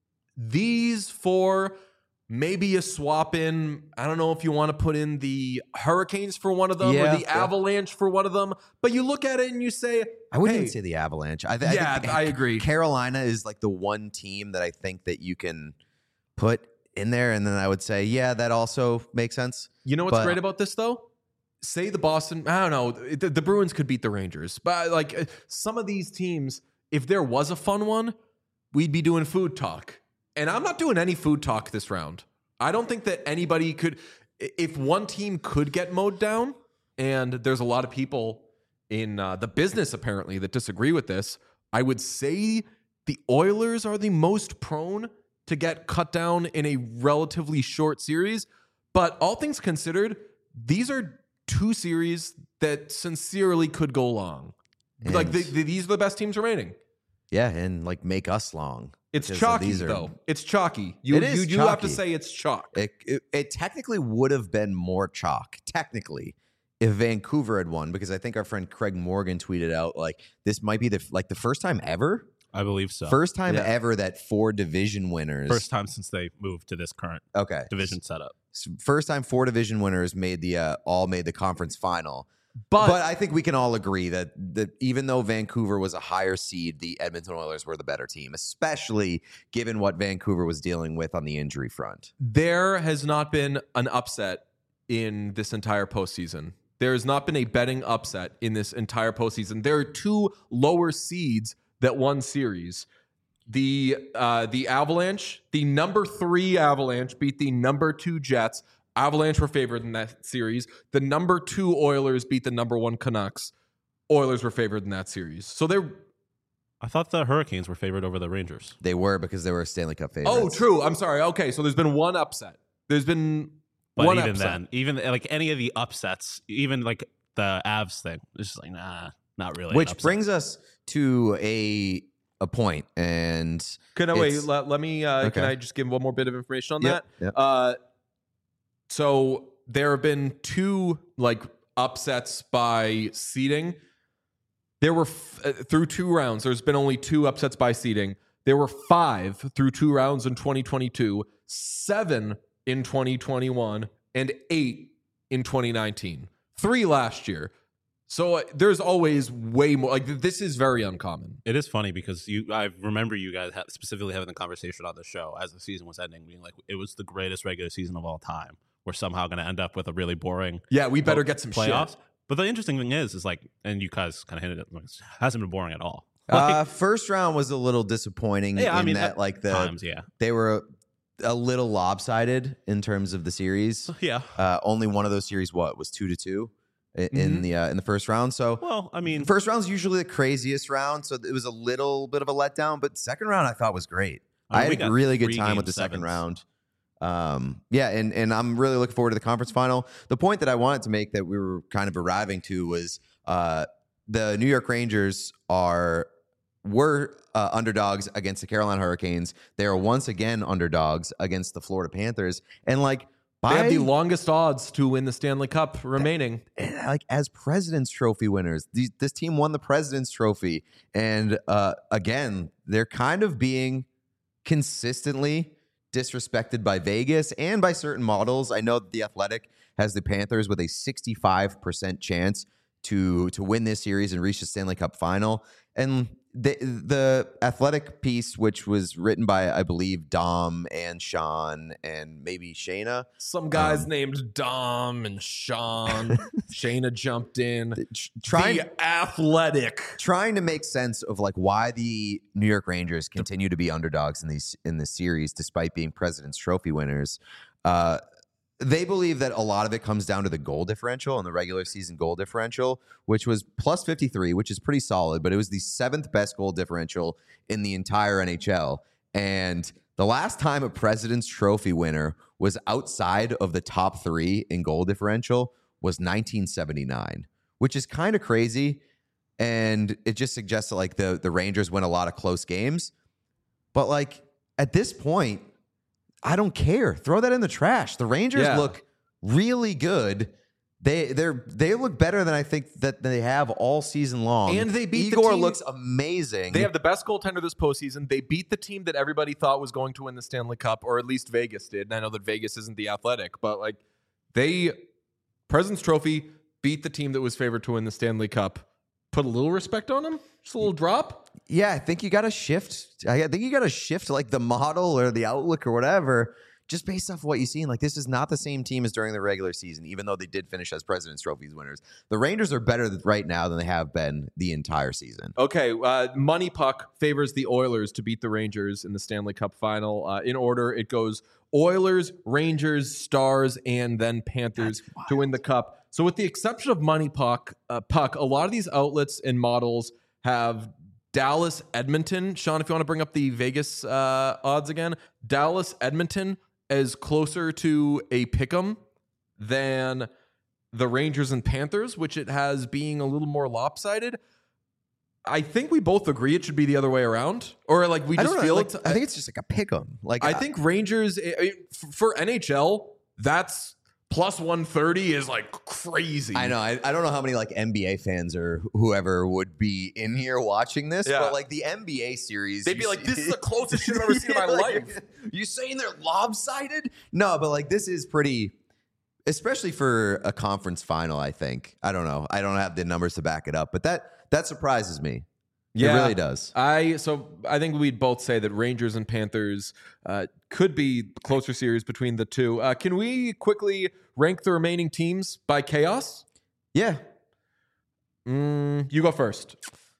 these four, maybe a swap in. I don't know if you want to put in the Hurricanes for one of them or the Avalanche for one of them, but you look at it and you say, I wouldn't hey, even say the Avalanche. I agree. Carolina is like the one team that I think that you can put in there, and then I would say, yeah, that also makes sense. You know what's great about this, though? Say the Boston, I don't know, the Bruins could beat the Rangers. But like some of these teams, if there was a fun one, we'd be doing food talk. And I'm not doing any food talk this round. I don't think that anybody could, if one team could get mowed down, and there's a lot of people in the business apparently that disagree with this, I would say the Oilers are the most prone to get cut down in a relatively short series. But all things considered, these are two series that sincerely could go long. And like these are the best teams remaining. Yeah, and like make us long. It's chalky though. It's chalky. You have to chalky. say it's chalk. It technically would have been more chalk, technically, if Vancouver had won, because I think our friend Craig Morgan tweeted out like this might be the first time ever. I believe so. First time ever that four division winners. First time since they moved to this current division setup. First time four division winners made the conference final. But I think we can all agree that even though Vancouver was a higher seed, the Edmonton Oilers were the better team, especially given what Vancouver was dealing with on the injury front. There has not been an upset in this entire postseason. There has not been a betting upset in this entire postseason. There are two lower seeds that won series. The Avalanche, the number 3 Avalanche beat the number 2 Jets. Avalanche were favored in that series. The number 2 Oilers beat the number 1 Canucks. Oilers were favored in that series. So I thought the Hurricanes were favored over the Rangers. They were, because they were Stanley Cup favorites. Oh, true. I'm sorry. Okay, so there's been one upset. There's been one even upset. then, even like any of the upsets, even like the Avs thing, it's just like, nah, not really. Which brings us to a point. And let me can I just give one more bit of information on that? Yep. So there have been 2 like upsets by seeding. There were through 2 rounds. There's been only 2 upsets by seeding. There were 5 through 2 rounds in 2022, 7 in 2021, and 8 in 2019. 3 last year. So there's always way more. Like, this is very uncommon. It is funny because I remember you guys specifically having the conversation on the show as the season was ending, being like, it was the greatest regular season of all time. We're somehow going to end up with a really boring we better get some playoffs. shit. But the interesting thing is like, and you guys kind of hinted at it, it hasn't been boring at all. First round was a little disappointing that like they were a little lopsided in terms of the series. Yeah. Only one of those series was 2-2 in the first round. So first round's usually the craziest round, so it was a little bit of a letdown. But second round I thought was great. I had a really good time with the second round. And I'm really looking forward to the conference final. The point that I wanted to make that we were kind of arriving to was the New York Rangers were underdogs against the Carolina Hurricanes. They are once again underdogs against the Florida Panthers. And like, they have the longest odds to win the Stanley Cup remaining. Like, as President's Trophy winners, this team won the President's Trophy. And again, they're kind of being consistently disrespected by Vegas and by certain models. I know that The Athletic has the Panthers with a 65% chance to win this series and reach the Stanley Cup final. And the Athletic piece, which was written by, I believe, Dom and Sean and maybe Shayna. Some guys named Dom and Sean. Shayna jumped in. The Athletic. Trying to make sense of like why the New York Rangers continue to be underdogs in this series despite being President's Trophy winners. They believe that a lot of it comes down to the goal differential and the regular season goal differential, which was plus 53, which is pretty solid, but it was the 7th best goal differential in the entire NHL. And the last time a President's Trophy winner was outside of the top 3 in goal differential was 1979, which is kind of crazy. And it just suggests that like the Rangers win a lot of close games. But like at this point, I don't care. Throw that in the trash. The Rangers look really good. They look better than I think that they have all season long. And they beat Igor the team. Looks amazing. They have the best goaltender this postseason. They beat the team that everybody thought was going to win the Stanley Cup, or at least Vegas did. And I know that Vegas isn't the Athletic, but like President's Trophy beat the team that was favored to win the Stanley Cup. Put a little respect on them. Just a little drop. Yeah, I think you got to shift. I think you got to shift like the model or the outlook or whatever, just based off what you've seen. Like, this is not the same team as during the regular season, even though they did finish as President's Trophies winners. The Rangers are better right now than they have been the entire season. Okay, Money Puck favors the Oilers to beat the Rangers in the Stanley Cup final. In order, it goes Oilers, Rangers, Stars, and then Panthers to win the Cup. So with the exception of Money Puck, a lot of these outlets and models have Dallas, Edmonton. Sean, if you want to bring up the Vegas odds again, Dallas, Edmonton is closer to a pick'em than the Rangers and Panthers, which it has being a little more lopsided. I think we both agree it should be the other way around, or like we just feel it. I think it's just like a pick'em. Like I think Rangers for NHL, that's plus 130 is like crazy. I know. I don't know how many like NBA fans or whoever would be in here watching this, but like the NBA series, they'd be like, "This is the closest shit I've ever seen in my life." You saying they're lopsided? No, but like this is pretty, especially for a conference final. I think. I don't know. I don't have the numbers to back it up, but that surprises me. Yeah, it really does. I think we'd both say that Rangers and Panthers could be closer series between the two. Can we quickly rank the remaining teams by chaos? Yeah. You go first.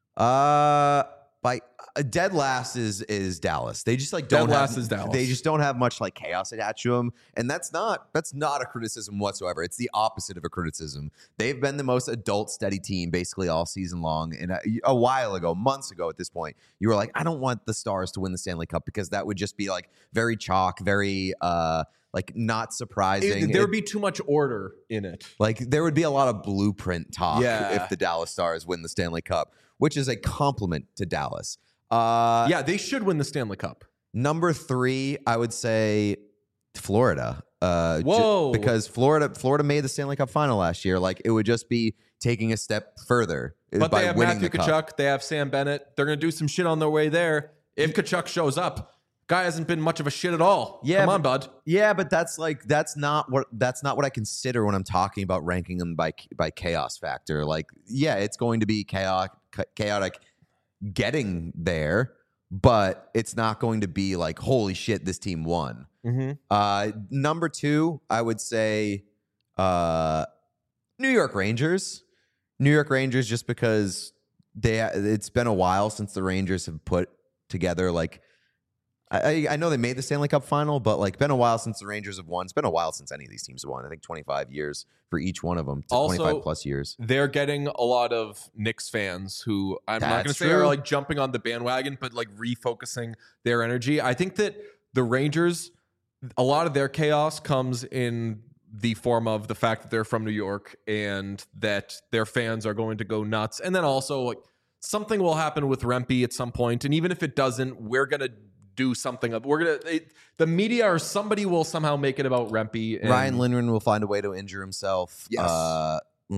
By dead last is Dallas. They just like is Dallas. They just don't have much like chaos attached to them, and that's not a criticism whatsoever. It's the opposite of a criticism. They've been the most adult steady team basically all season long. And a while ago, months ago at this point, you were like, I don't want the Stars to win the Stanley Cup because that would just be like very chalk, very like not surprising. There would be too much order in it. Like there would be a lot of blueprint talk if the Dallas Stars win the Stanley Cup, which is a compliment to Dallas. They should win the Stanley Cup. Number 3, I would say Florida. Whoa. Because Florida made the Stanley Cup final last year. Like it would just be taking a step further. But by they have winning Matthew the Tkachuk. Cup. They have Sam Bennett. They're going to do some shit on their way there. If Tkachuk shows up, Guy hasn't been much of a shit at all. Yeah, Come on, bud. Yeah, but that's not what I consider when I'm talking about ranking them by chaos factor. Like, yeah, it's going to be chaotic getting there, but it's not going to be like, holy shit, this team won. Number 2, I would say New York Rangers. New York Rangers, just because it's been a while since the Rangers have put together like. I know they made the Stanley Cup final, but like been a while since the Rangers have won. It's been a while since any of these teams have won. I think 25 years for each one of them. Also, 25 plus years. They're getting a lot of Knicks fans who I'm not going to say are like jumping on the bandwagon, but like refocusing their energy. I think that the Rangers, a lot of their chaos comes in the form of the fact that they're from New York and that their fans are going to go nuts. And then also like something will happen with Rempe at some point. And even if it doesn't, we're going to do something. The media or somebody will somehow make it about Rempe. And Ryan Lindgren will find a way to injure himself. Yes.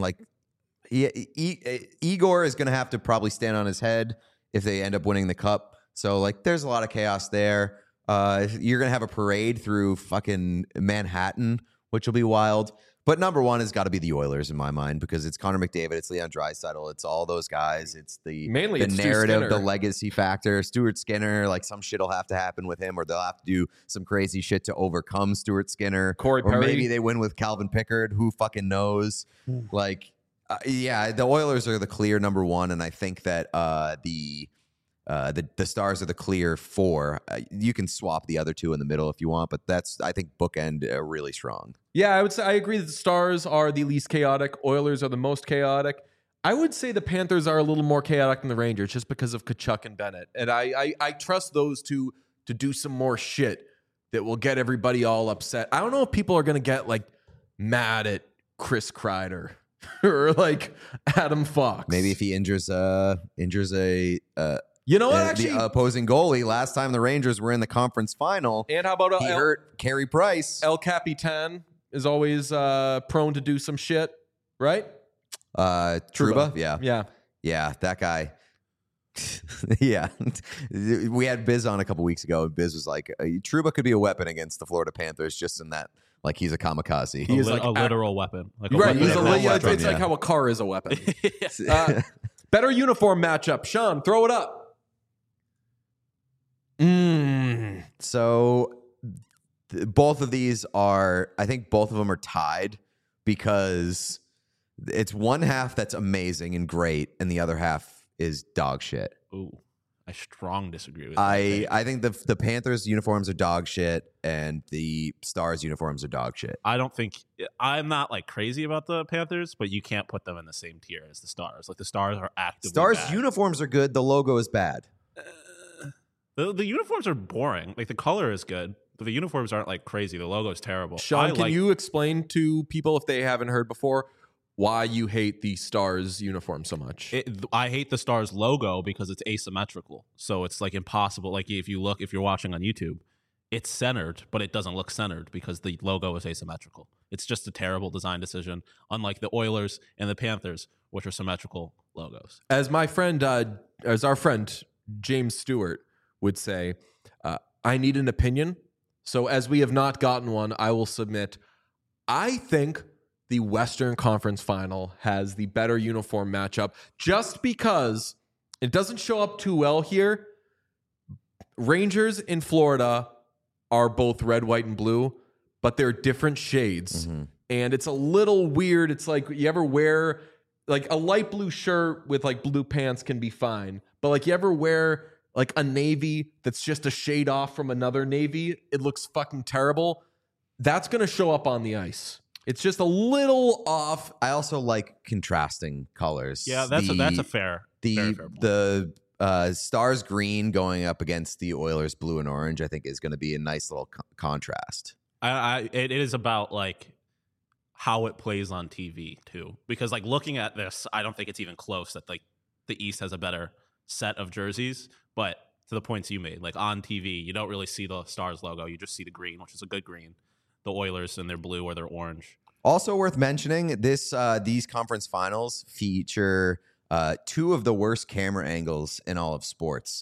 Igor is going to have to probably stand on his head if they end up winning the cup. So like, there's a lot of chaos there. You're going to have a parade through fucking Manhattan, which will be wild. But number 1 has got to be the Oilers in my mind because it's Connor McDavid, it's Leon Draisaitl, it's all those guys. It's the narrative, the legacy factor. Stuart Skinner, like some shit will have to happen with him, or they'll have to do some crazy shit to overcome Stuart Skinner. Corey Perry. Or maybe they win with Calvin Pickard. Who fucking knows? Like, yeah, the Oilers are the clear number 1, and I think that the Stars are the clear 4. You can swap the other 2 in the middle if you want, but that's, I think, bookend really strong. Yeah, I would say I agree that the Stars are the least chaotic. Oilers are the most chaotic. I would say the Panthers are a little more chaotic than the Rangers just because of Tkachuk and Bennett. And I trust those two to do some more shit that will get everybody all upset. I don't know if people are going to get like mad at Chris Kreider or like Adam Fox. Maybe if he injures a you know what? Actually, the opposing goalie last time the Rangers were in the conference final. And how about he hurt Carey Price? El Capitan is always prone to do some shit, right? Trouba, yeah, that guy. Yeah, we had Biz on a couple weeks ago, and Biz was like, "Trouba could be a weapon against the Florida Panthers, just in that, like he's a kamikaze. He is like a literal weapon. Like right, weapon it's like how a car is a weapon." Better uniform matchup, Sean. Throw it up. So both of these are, I think both of them are tied because it's one half that's amazing and great, and the other half is dog shit. Ooh, I strong disagree with that. I think the Panthers uniforms are dog shit, and the Stars uniforms are dog shit. I'm not like crazy about the Panthers, but you can't put them in the same tier as the Stars. Like the Stars are actively Stars bad. Uniforms are good. The logo is bad. The uniforms are boring. Like the color is good, but the uniforms aren't like crazy. The logo is terrible. Sean, can you explain to people if they haven't heard before why you hate the Stars uniform so much? I hate the Stars logo because it's asymmetrical. So it's like impossible. Like if you're watching on YouTube, it's centered, but it doesn't look centered because the logo is asymmetrical. It's just a terrible design decision, unlike the Oilers and the Panthers, which are symmetrical logos. As our friend James Stewart would say, I need an opinion. So as we have not gotten one, I will submit. I think the Western Conference Final has the better uniform matchup just because it doesn't show up too well here. Rangers in Florida are both red, white, and blue, but they're different shades. Mm-hmm. And it's a little weird. It's like you ever wear like a light blue shirt with like blue pants can be fine. But like you ever wear like a navy that's just a shade off from another navy, it looks fucking terrible. That's going to show up on the ice. It's just a little off. I also like contrasting colors. Yeah, that's a fair point. The Stars green going up against the Oilers blue and orange, I think is going to be a nice little contrast. It is about like how it plays on TV too, because like looking at this, I don't think it's even close that like the East has a better set of jerseys. But to the points you made, like on TV, you don't really see the Stars logo. You just see the green, which is a good green. The Oilers in their blue or their orange. Also worth mentioning, these conference finals feature 2 of the worst camera angles in all of sports.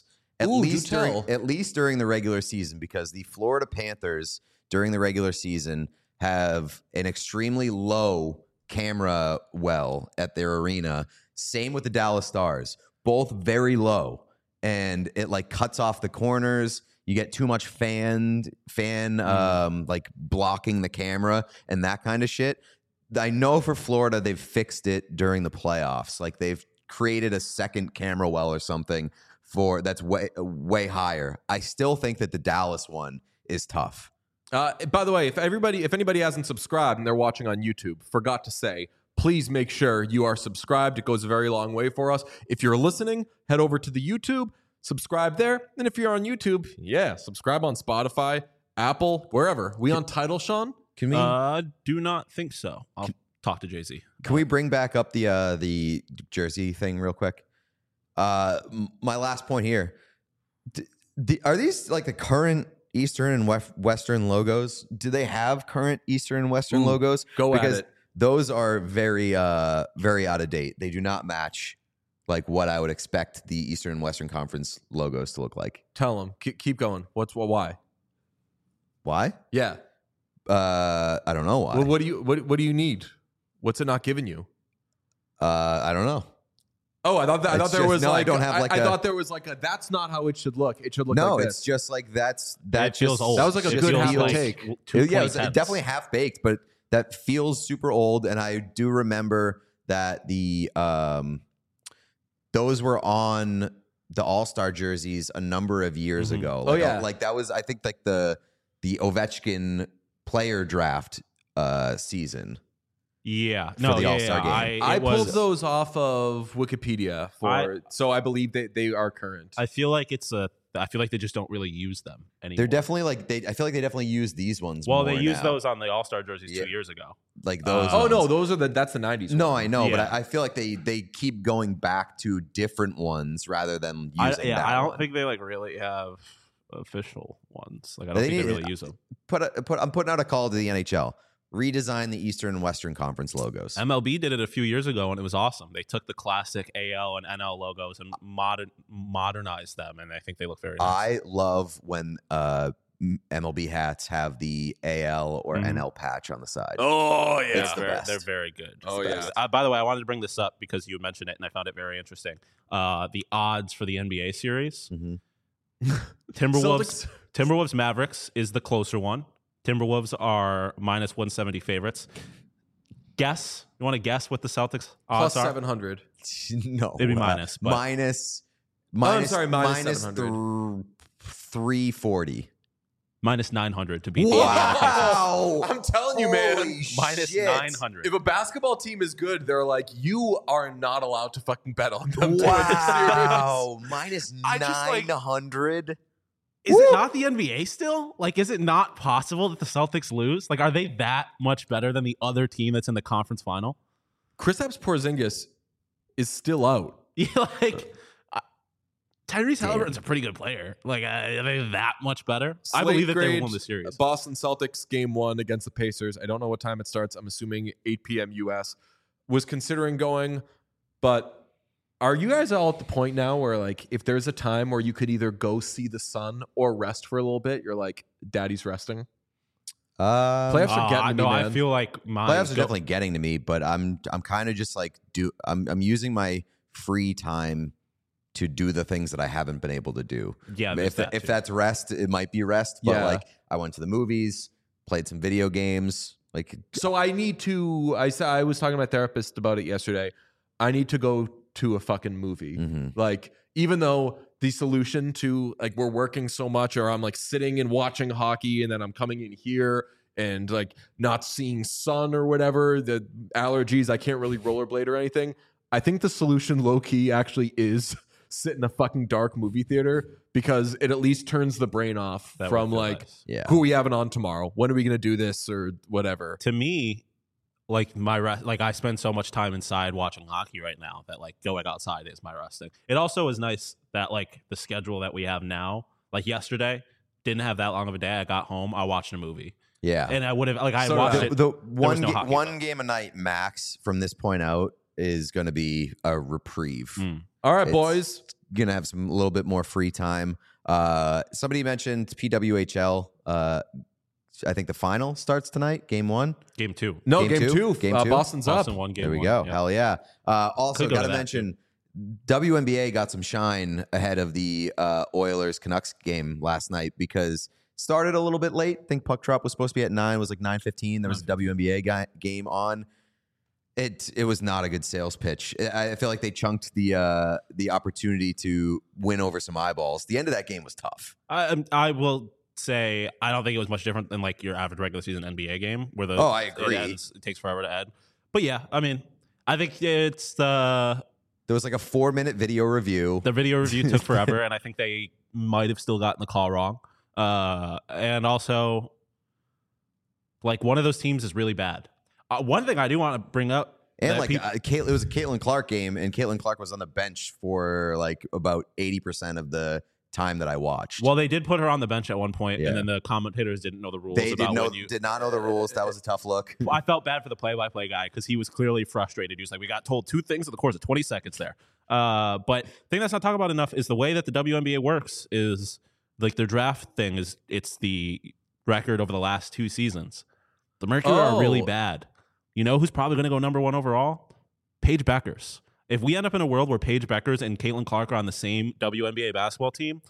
At Ooh, least do tell. during the regular season, because the Florida Panthers during the regular season have an extremely low camera well at their arena. Same with the Dallas Stars, both very low, and it like cuts off the corners. You get too much fan like blocking the camera and that kind of shit. I know for Florida they've fixed it during the playoffs. Like they've created a second camera well or something that's way higher. I still think that the Dallas one is tough. By the way, if anybody hasn't subscribed and they're watching on YouTube, forgot to say, please make sure you are subscribed. It goes a very long way for us. If you're listening, head over to the YouTube, subscribe there. And if you're on YouTube, subscribe on Spotify, Apple, wherever. We on Tidal, Sean? Can we? Do not think so. I'll talk to Jay-Z. Can we bring back up the jersey thing real quick? My last point here. Are these like the current Eastern and Western logos? Do they have current Eastern and Western logos? Because at it. Those are very, very out of date. They do not match like what I would expect the Eastern and Western Conference logos to look like. Tell them. Keep going. Why? Why? Yeah. I don't know why. Well, what do you need? What's it not giving you? I don't know. Oh, I thought there was like I thought there was like a that's not how it should look. It should look like this. It's just like that feels old. That was like a good half take. Yeah, it was definitely half baked, but that feels super old. And I do remember that those were on the All-Star jerseys a number of years ago. Like, that was, I think, like the Ovechkin player draft season. Yeah, for the All-Star game. I pulled those off of Wikipedia so I believe they are current. I feel like I feel like they just don't really use them anymore. They're definitely like I feel like they definitely use these ones. Well, more they used now. those on the All-Star jerseys 2 years ago. Like those. Oh no, those are that's the 90s. No, one. I know, Yeah. but I feel like they keep going back to different ones rather than using. I don't one. think they like really have official ones. Like I don't think they really use them. I'm putting out a call to the NHL. Redesign the Eastern and Western Conference logos. MLB did it a few years ago, and it was awesome. They took the classic AL and NL logos and modernized them, and I think they look very nice. I love when MLB hats have the AL or NL patch on the side. Oh yeah, It's the best. They're very good. Oh yeah. By the way, I wanted to bring this up because you mentioned it, and I found it very interesting. The odds for the NBA series: Timberwolves Mavericks is the closer one. Timberwolves are minus 170 favorites. Guess. You want to guess what the Celtics odds plus are? 700. No, Maybe minus. But minus. I'm sorry, minus minus 700. 340. minus 900 to beat the Wow! I'm telling you, man. minus Shit. 900. If a basketball team is good, they're like, you are not allowed to fucking bet on them. Wow! Minus I just, like- 900. Is it not the NBA still? Like, is it not possible that the Celtics lose? Like, are they that much better than the other team that's in the conference final? Kristaps Porzingis is still out. Yeah, like Tyrese Halliburton's a pretty good player. Like, are they that much better? I believe that they won the series. Boston Celtics game 1 against the Pacers. I don't know what time it starts. I'm assuming 8 p.m. US. Was considering going, but are you guys all at the point now where, like, if there's a time where you could either go see the sun or rest for a little bit, you're like, daddy's resting? Playoffs are getting to me, man. I feel like Playoffs are definitely getting to me, but I'm kind of just like I'm using my free time to do the things that I haven't been able to do. Yeah, if that's rest, it might be rest. But Yeah. like I went to the movies, played some video games. Like So I need to. I was talking to my therapist about it yesterday. I need to go to a fucking movie. Like, even though the solution to, like, we're working so much, or I'm like sitting and watching hockey, and then I'm coming in here and like not seeing sun or whatever, the allergies, I can't really rollerblade or anything. I think the solution low key actually is sit in a fucking dark movie theater, because it at least turns the brain off That from would feel like, nice. yeah. who are we having on tomorrow? When are we going to do this or whatever? To me, like I spend so much time inside watching hockey right now that like going outside is my resting. It also is nice that like the schedule that we have now, like yesterday, didn't have that long of a day. I got home, I watched a movie. Yeah. And I would have like I So watched the- it. The was no hockey, one though. game a night max from this point out is going to be a reprieve. All right, It's boys. going to have a little bit more free time. Somebody mentioned PWHL. I think the final starts tonight, game 1. Game 2. No, Game two? Game 2. Boston's Boston up. won game There we 1. go. Yeah. Hell yeah. Also, Could go got to to that, mention WNBA got some shine ahead of the Oilers Canucks game last night because started a little bit late. I think puck drop was supposed to be at 9. It was like 9:15. There was a WNBA game on. It was not a good sales pitch. I feel like they chunked the opportunity to win over some eyeballs. The end of that game was tough. I will say I don't think it was much different than like your average regular season NBA game where I agree. It takes forever to add. But yeah, I mean, I think it's there was like a 4-minute video review. The video review took forever, and I think they might have still gotten the call wrong. And also, like, one of those teams is really bad. One thing I do want to bring up, and like it was a Caitlin Clark game, and Caitlin Clark was on the bench for like about 80% of the time that I watched. Well, they did put her on the bench at one point, Yeah. and then the commentators didn't know the rules. They about did not know the rules. That was a tough look. I felt bad for the play-by-play guy because he was clearly frustrated. He was like, we got told 2 things in the course of 20 seconds there. But the thing that's not talked about enough is the way that the WNBA works is like their draft thing is it's the record over the last 2 seasons. The Mercury are really bad. You know who's probably going to go number 1 overall? Paige Beckers. If we end up in a world where Paige Beckers and Caitlin Clark are on the same WNBA basketball team,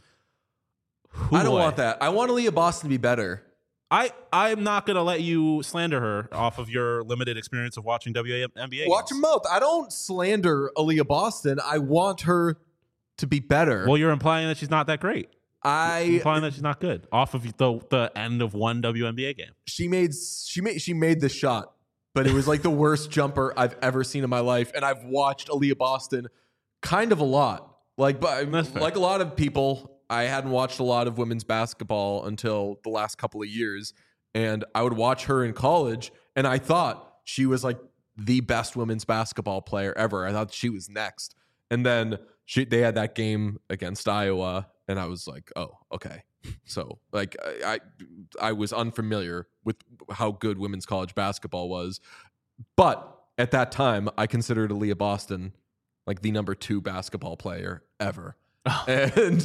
I don't want that. I want Aaliyah Boston to be better. I'm not going to let you slander her off of your limited experience of watching WNBA. Watch your mouth. I don't slander Aaliyah Boston. I want her to be better. Well, you're implying that she's not that great. You're implying that she's not good off of the end of one WNBA game. She made the shot, but it was like the worst jumper I've ever seen in my life, and I've watched Aaliyah Boston kind of a lot. Like a lot of people, I hadn't watched a lot of women's basketball until the last couple of years, and I would watch her in college, and I thought she was like the best women's basketball player ever. I thought she was next, and then they had that game against Iowa, and I was like, oh, okay. So like I was unfamiliar with how good women's college basketball was, but at that time I considered Aaliyah Boston like the number 2 basketball player ever. And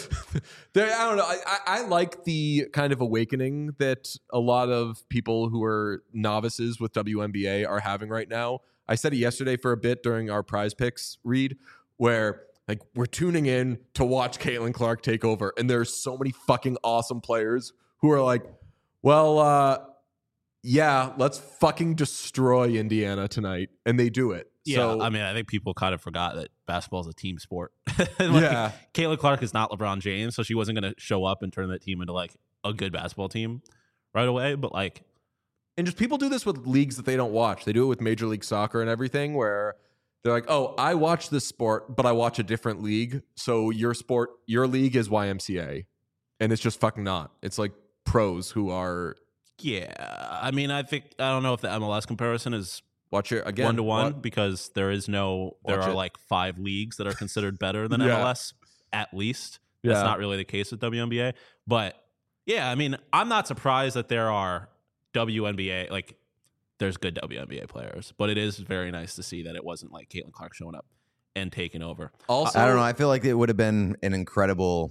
I don't know. I like the kind of awakening that a lot of people who are novices with WNBA are having right now. I said it yesterday for a bit during our Prize Picks read, where like we're tuning in to watch Caitlin Clark take over, and there's so many fucking awesome players who are like, well, yeah, let's fucking destroy Indiana tonight, and they do it. Yeah, So, I mean, I think people kind of forgot that basketball is a team sport. Yeah. Caitlin Clark is not LeBron James, so she wasn't going to show up and turn that team into like a good basketball team right away. But like, and just people do this with leagues that they don't watch. They do it with Major League Soccer and everything, where they're like, oh, I watch this sport, but I watch a different league. So your league is YMCA. And it's just fucking not. It's like pros who are. yeah, I mean, I don't know if the MLS comparison is Watch it again. 1-to-1 because there are like 5 leagues that are considered better than Yeah. MLS at least. That's Yeah. not really the case with WNBA. But yeah, I mean, I'm not surprised that there are WNBA, like there's good WNBA players, but it is very nice to see that it wasn't like Caitlin Clark showing up and taking over. Also, I don't know. I feel like it would have been an incredible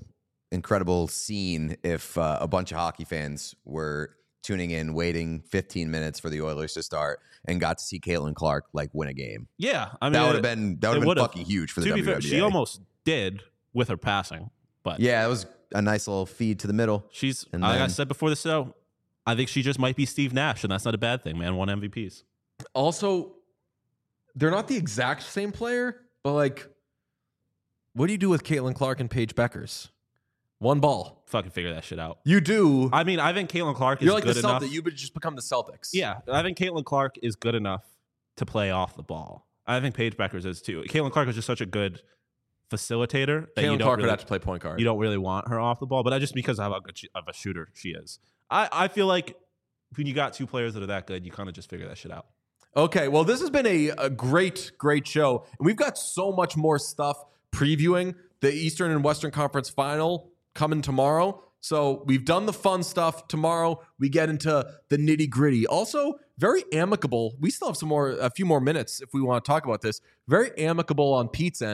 scene if a bunch of hockey fans were tuning in, waiting 15 minutes for the Oilers to start, and got to see Caitlin Clark like win a game. Yeah, I mean, That would have been fucking huge for the to be WNBA. fair, she almost did with her passing, but Yeah, it was a nice little feed to the middle. she's And like I then- said before the show, I think she just might be Steve Nash, and that's not a bad thing, man. 1 MVPs. Also, they're not the exact same player, but like, what do you do with Caitlin Clark and Paige Beckers? 1 ball. Fucking figure that shit out. You do. I mean, I think Caitlin Clark is You're like good the enough. Celtics. You would just become the Celtics. Yeah, I think Caitlin Clark is good enough to play off the ball. I think Paige Beckers is too. Caitlin Clark is just such a good facilitator that you Caitlin don't Clark really, would have to play point guard. you don't really want her off the ball, but I just because of how good of a shooter she is. I feel like when you got 2 players that are that good, you kind of just figure that shit out. Okay, well, this has been a great show. And we've got so much more stuff previewing the Eastern and Western Conference Final coming tomorrow. So we've done the fun stuff. Tomorrow we get into the nitty gritty. Also, very amicable. We still have a few more minutes if we want to talk about this. Very amicable on Pete's end.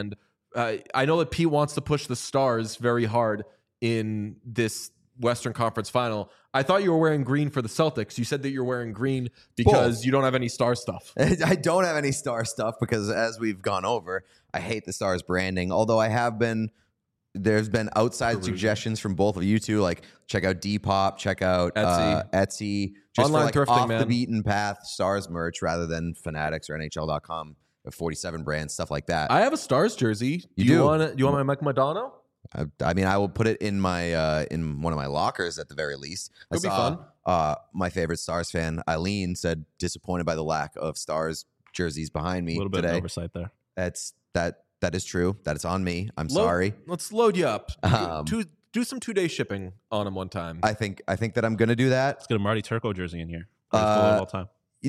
I know that Pete wants to push the Stars very hard in this Western Conference Final. I thought you were wearing green for the Celtics. You said that you're wearing green because you don't have any Star stuff. I don't have any Star stuff because, as we've gone over, I hate the Stars branding. Although there's been outside suggestions from both of you two, like check out Depop, check out Etsy, just online for like thrifting, off man. the beaten path Stars merch rather than Fanatics or NHL.com, 47 brands, stuff like that. I have a Stars jersey. You do do? You want my Mike Madonna? I mean, I will put it in my in one of my lockers at the very least. It'll be fun. fun. My favorite Stars fan, Eileen, said disappointed by the lack of Stars jerseys behind me A little bit of today. oversight there. That is true. That is on me. I'm sorry. Let's load you up. Um, Do some 2-day shipping on them one time. I think that I'm gonna do that. Let's get a Marty Turco jersey in here. All time.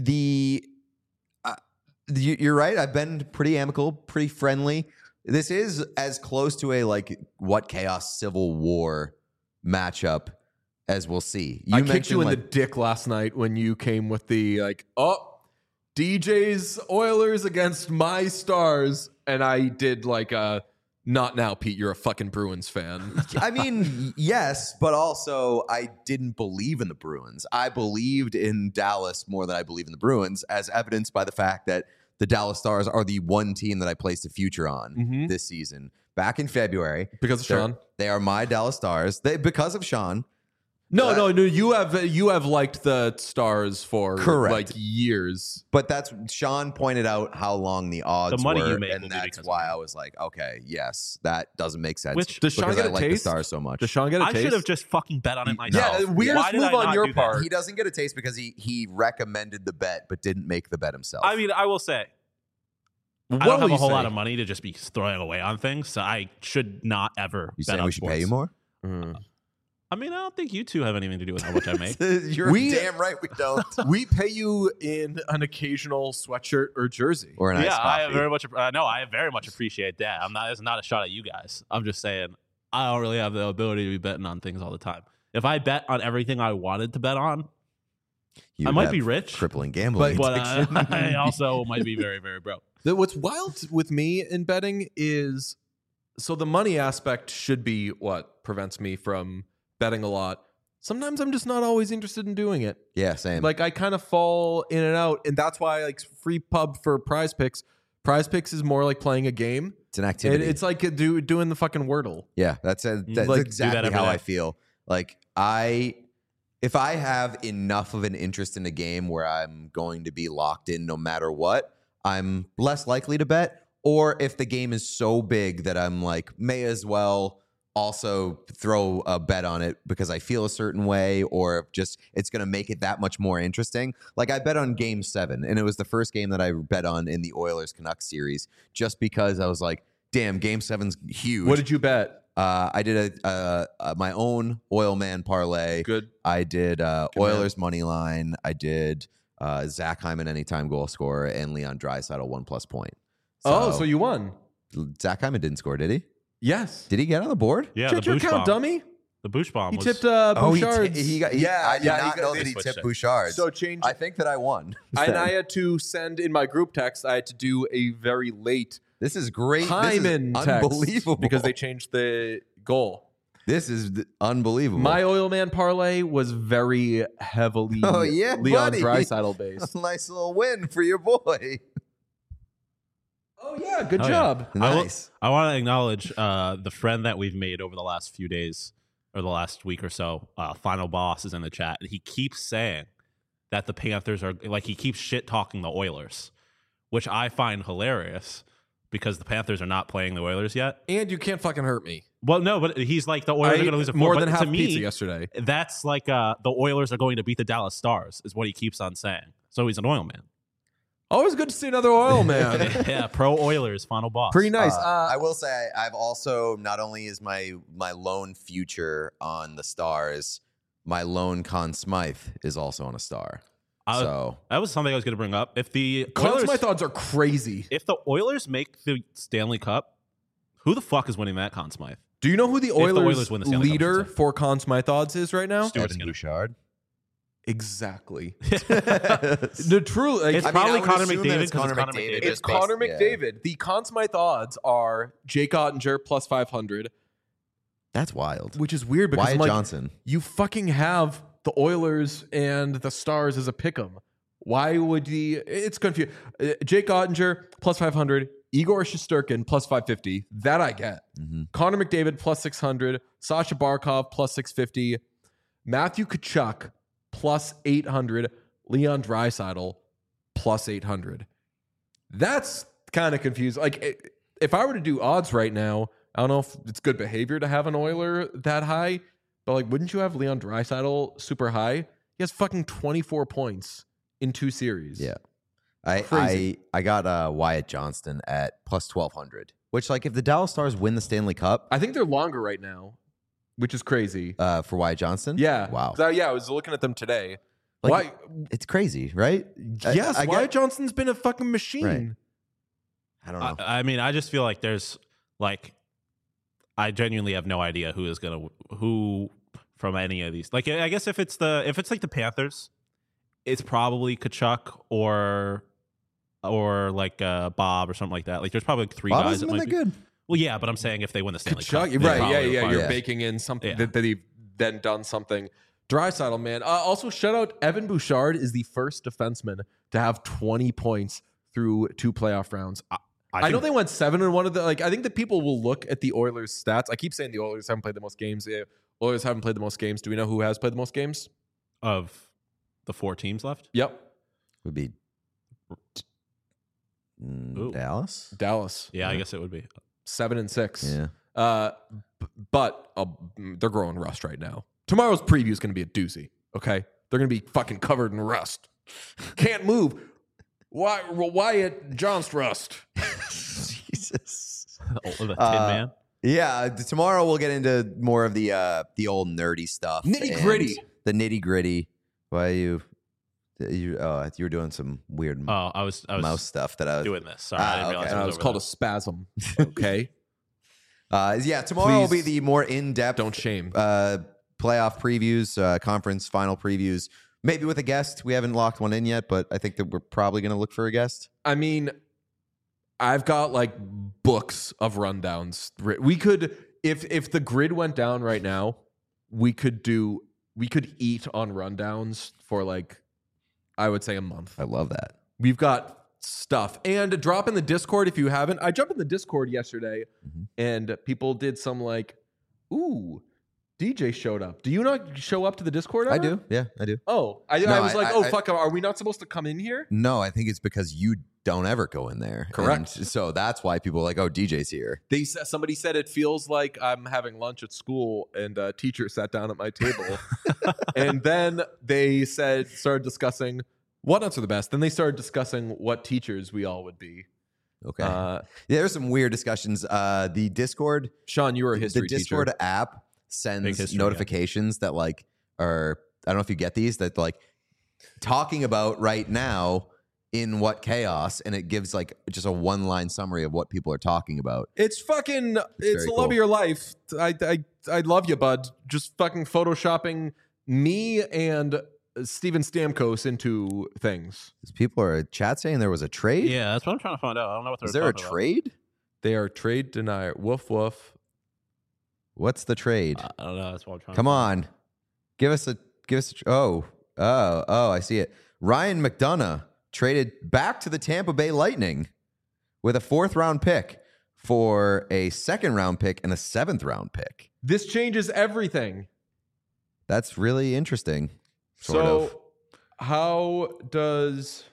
You're right. I've been pretty amicable, pretty friendly. This is as close to a like what Chaos Civil War matchup as we'll see. I kicked you in the dick last night when you came with the DJ's Oilers against my Stars, and I did like a not now, Pete. You're a fucking Bruins fan. I mean, yes, but also I didn't believe in the Bruins. I believed in Dallas more than I believe in the Bruins, as evidenced by the fact that the Dallas Stars are the one team that I placed a future on this season. Back in February. Because of Sean? They are my Dallas Stars. Because of Sean. No. You have liked the Stars for like years. But that's Sean pointed out how long the odds The money were, you make will and be that's because why I was like, okay, yes, that doesn't make sense. Which- Does Sean because get I a like the taste? Stars so much. Does Sean get a I taste? should have just fucking bet on it myself. Yeah, weirdest Why did move I on not your do that? part. He doesn't get a taste because he recommended the bet but didn't make the bet himself. I mean, I will say, What I don't will have a you whole say? lot of money to just be throwing away on things, so I should not ever you bet saying on we should sports. pay you more? I mean, I don't think you two have anything to do with how much I make. You're damn right we don't. We pay you in an occasional sweatshirt or jersey. Or an iced Yeah, I coffee. very much. No, I very much appreciate that. It's not a shot at you guys. I'm just saying I don't really have the ability to be betting on things all the time. If I bet on everything I wanted to bet on, You I might have be rich, crippling gambling but addiction. I also might be very, very broke. What's wild with me in betting is so the money aspect should be what prevents me from betting a lot. Sometimes I'm just not always interested in doing it. Yeah, same. Like I kind of fall in and out, and that's why like free pub for Prize Picks. Prize Picks is more like playing a game. it's an activity. It's like doing the fucking Wordle. Yeah, that's Like, do exactly that every how day. I feel. Like if I have enough of an interest in a game where I'm going to be locked in no matter what, I'm less likely to bet. Or if the game is so big that I'm like, may as well also throw a bet on it because I feel a certain way, or just it's going to make it that much more interesting. Like I bet on Game 7, and it was the first game that I bet on in the Oilers Canucks series, just because I was like, damn, Game 7's huge. What did you bet? I did my own Oil Man parlay. Good. I did Oilers money line. I did Zach Hyman anytime goal scorer and Leon Draisaitl 1+ point. So you won. Zach Hyman didn't score, did he? Yes. Did he get on the board? Yeah, Check the your Boosh account, bomb. dummy. The Boosh bomb. He was, tipped Oh, Bouchard's. I did Yeah, not know that he switched tipped it. Bouchard. So change. I think that I won. And I had to send in my group text. I had to do a very late This is great. Hyman This is text unbelievable. because they changed the goal. This is unbelievable. My Oil Man parlay was very heavily Oh, yeah, Leon buddy. Draisaitl based. Nice little win for your boy. Oh yeah, good Oh, yeah. job. Nice. I want to acknowledge the friend that we've made over the last few days or the last week or so. Final Boss is in the chat, and he keeps saying that the Panthers are like he keeps shit talking the Oilers, which I find hilarious because the Panthers are not playing the Oilers yet. And you can't fucking hurt me. Well, no, but he's like the Oilers are going to lose a more but than to half me, pizza yesterday. That's like the Oilers are going to beat the Dallas Stars is what he keeps on saying. So he's an oil man. Always good to see another Oil Man. Yeah, pro Oilers, Final Boss. Pretty nice. I will say I've also not only is my lone future on the Stars, my lone Conn Smythe is also on a star. So That was something I was going to bring up. If the Oilers, Oilers, my thoughts are crazy. if the Oilers make the Stanley Cup, who the fuck is winning that Conn Smythe? Do you know who the the Oilers, Oilers win the Stanley Cup, I leader should say. for Conn Smythe odds is right now? Stuart Evan Skinner. Bouchard. Exactly. The true, like, It's I mean, probably I would Connor assume that McDavid it's because Connor it's Connor McDavid. McDavid. it's Connor based- McDavid. The Conn Smythe odds are Jake Ottinger plus 500, That's wild. which is weird because Wyatt I'm like, Johnson. you fucking have the Oilers and the Stars as a pick'em. Why would he? It's confusing. Jake Ottinger plus 500, Igor Shesterkin plus 550. That I get. Mhm. Connor McDavid plus 600, Sasha Barkov plus 650, Matthew Tkachuk plus 800, Leon Draisaitl plus 800. That's kind of confusing. Like, if I were to do odds right now, I don't know if it's good behavior to have an Oiler that high, but like, wouldn't you have Leon Draisaitl super high? He has fucking 24 points in 2 series. Yeah. Crazy. I got Wyatt Johnston at plus 1,200, which, like, if the Dallas Stars win the Stanley Cup I think they're longer right now, which is crazy. for Wyatt Johnston. Yeah. Wow. 'Cause I was looking at them today. Like, it's crazy, right? Yes, I Wyatt get- Johnston's been a fucking machine. Right. I don't know. I mean, I just feel like there's like, I genuinely have no idea who from any of these. Like, I guess if it's like the Panthers, it's probably Tkachuk or like Bob or something like that. Like, there's probably like 3 Bob guys hasn't that been might that be good. Well, yeah, but I'm saying if they win the Stanley Cup, Tkachuk, they right? probably Yeah. require You're it. baking in something Yeah. that he then done something. Draisaitl, man. Also, shout out Evan Bouchard is the first defenseman to have 20 points through 2 playoff rounds. I know they went 7 in one of the, like, I think that people will look at the Oilers stats. I keep saying the Oilers haven't played the most games. The Oilers haven't played the most games. Do we know who has played the most games? of the 4 teams left. Yep. Would be Ooh. Dallas. Dallas. Yeah, I guess it would be. 7 and 6. Yeah. But they're growing rust right now. Tomorrow's preview is going to be a doozy. Okay, they're going to be fucking covered in rust. Can't move. Wyatt Johnson rust. Jesus. The Tin Man. Yeah. Tomorrow we'll get into more of the old nerdy stuff, Nitty-gritty. and the nitty gritty. Why you were doing some weird Oh, I was mouse stuff that I was doing this. Sorry, I didn't okay. realize And it was over called there. a spasm. Okay, Yeah, tomorrow will be Please the more in-depth don't shame. playoff previews, conference final previews. Maybe with a guest. We haven't locked one in yet, but I think that we're probably going to look for a guest. I mean, I've got like books of rundowns. We could, if the grid went down right now, we could eat on rundowns for like, I would say a month. I love that. We've got stuff. And drop in the Discord if you haven't. I jumped in the Discord yesterday and people did some like, ooh, DJ showed up. Do you not show up to the Discord ever? I do. Yeah, I do. Oh, I No, was like, I- fuck, are we not supposed to come in here? No, I think it's because you don't ever go in there. Correct. And so that's why people are like, oh, DJ's here. Somebody said it feels like I'm having lunch at school and a teacher sat down at my table. And then they started discussing what nuts are the best. Then they started discussing what teachers we all would be. Okay. Yeah, there's some weird discussions. The Discord, Sean, you were a history the Discord teacher. app Big sends history, notifications that like are, I don't know if you get these, that like talking about right now in what chaos, and it gives like just a 1-line summary of what people are talking about. It's fucking, it's very the love cool. of your life. I love you, bud. Just fucking photoshopping me and Steven Stamkos into things. People are chat saying there was a trade. Yeah, that's what I'm trying to find out. I don't know what they're Is there a talking trade? They are trade denier. Woof woof. What's the trade? about. I don't know. That's what I'm trying. Come on, give us a. Oh, I see it. Ryan McDonough traded back to the Tampa Bay Lightning with a 4th-round pick for a 2nd-round pick and a 7th-round pick. This changes everything. That's really interesting. Sort of. How does?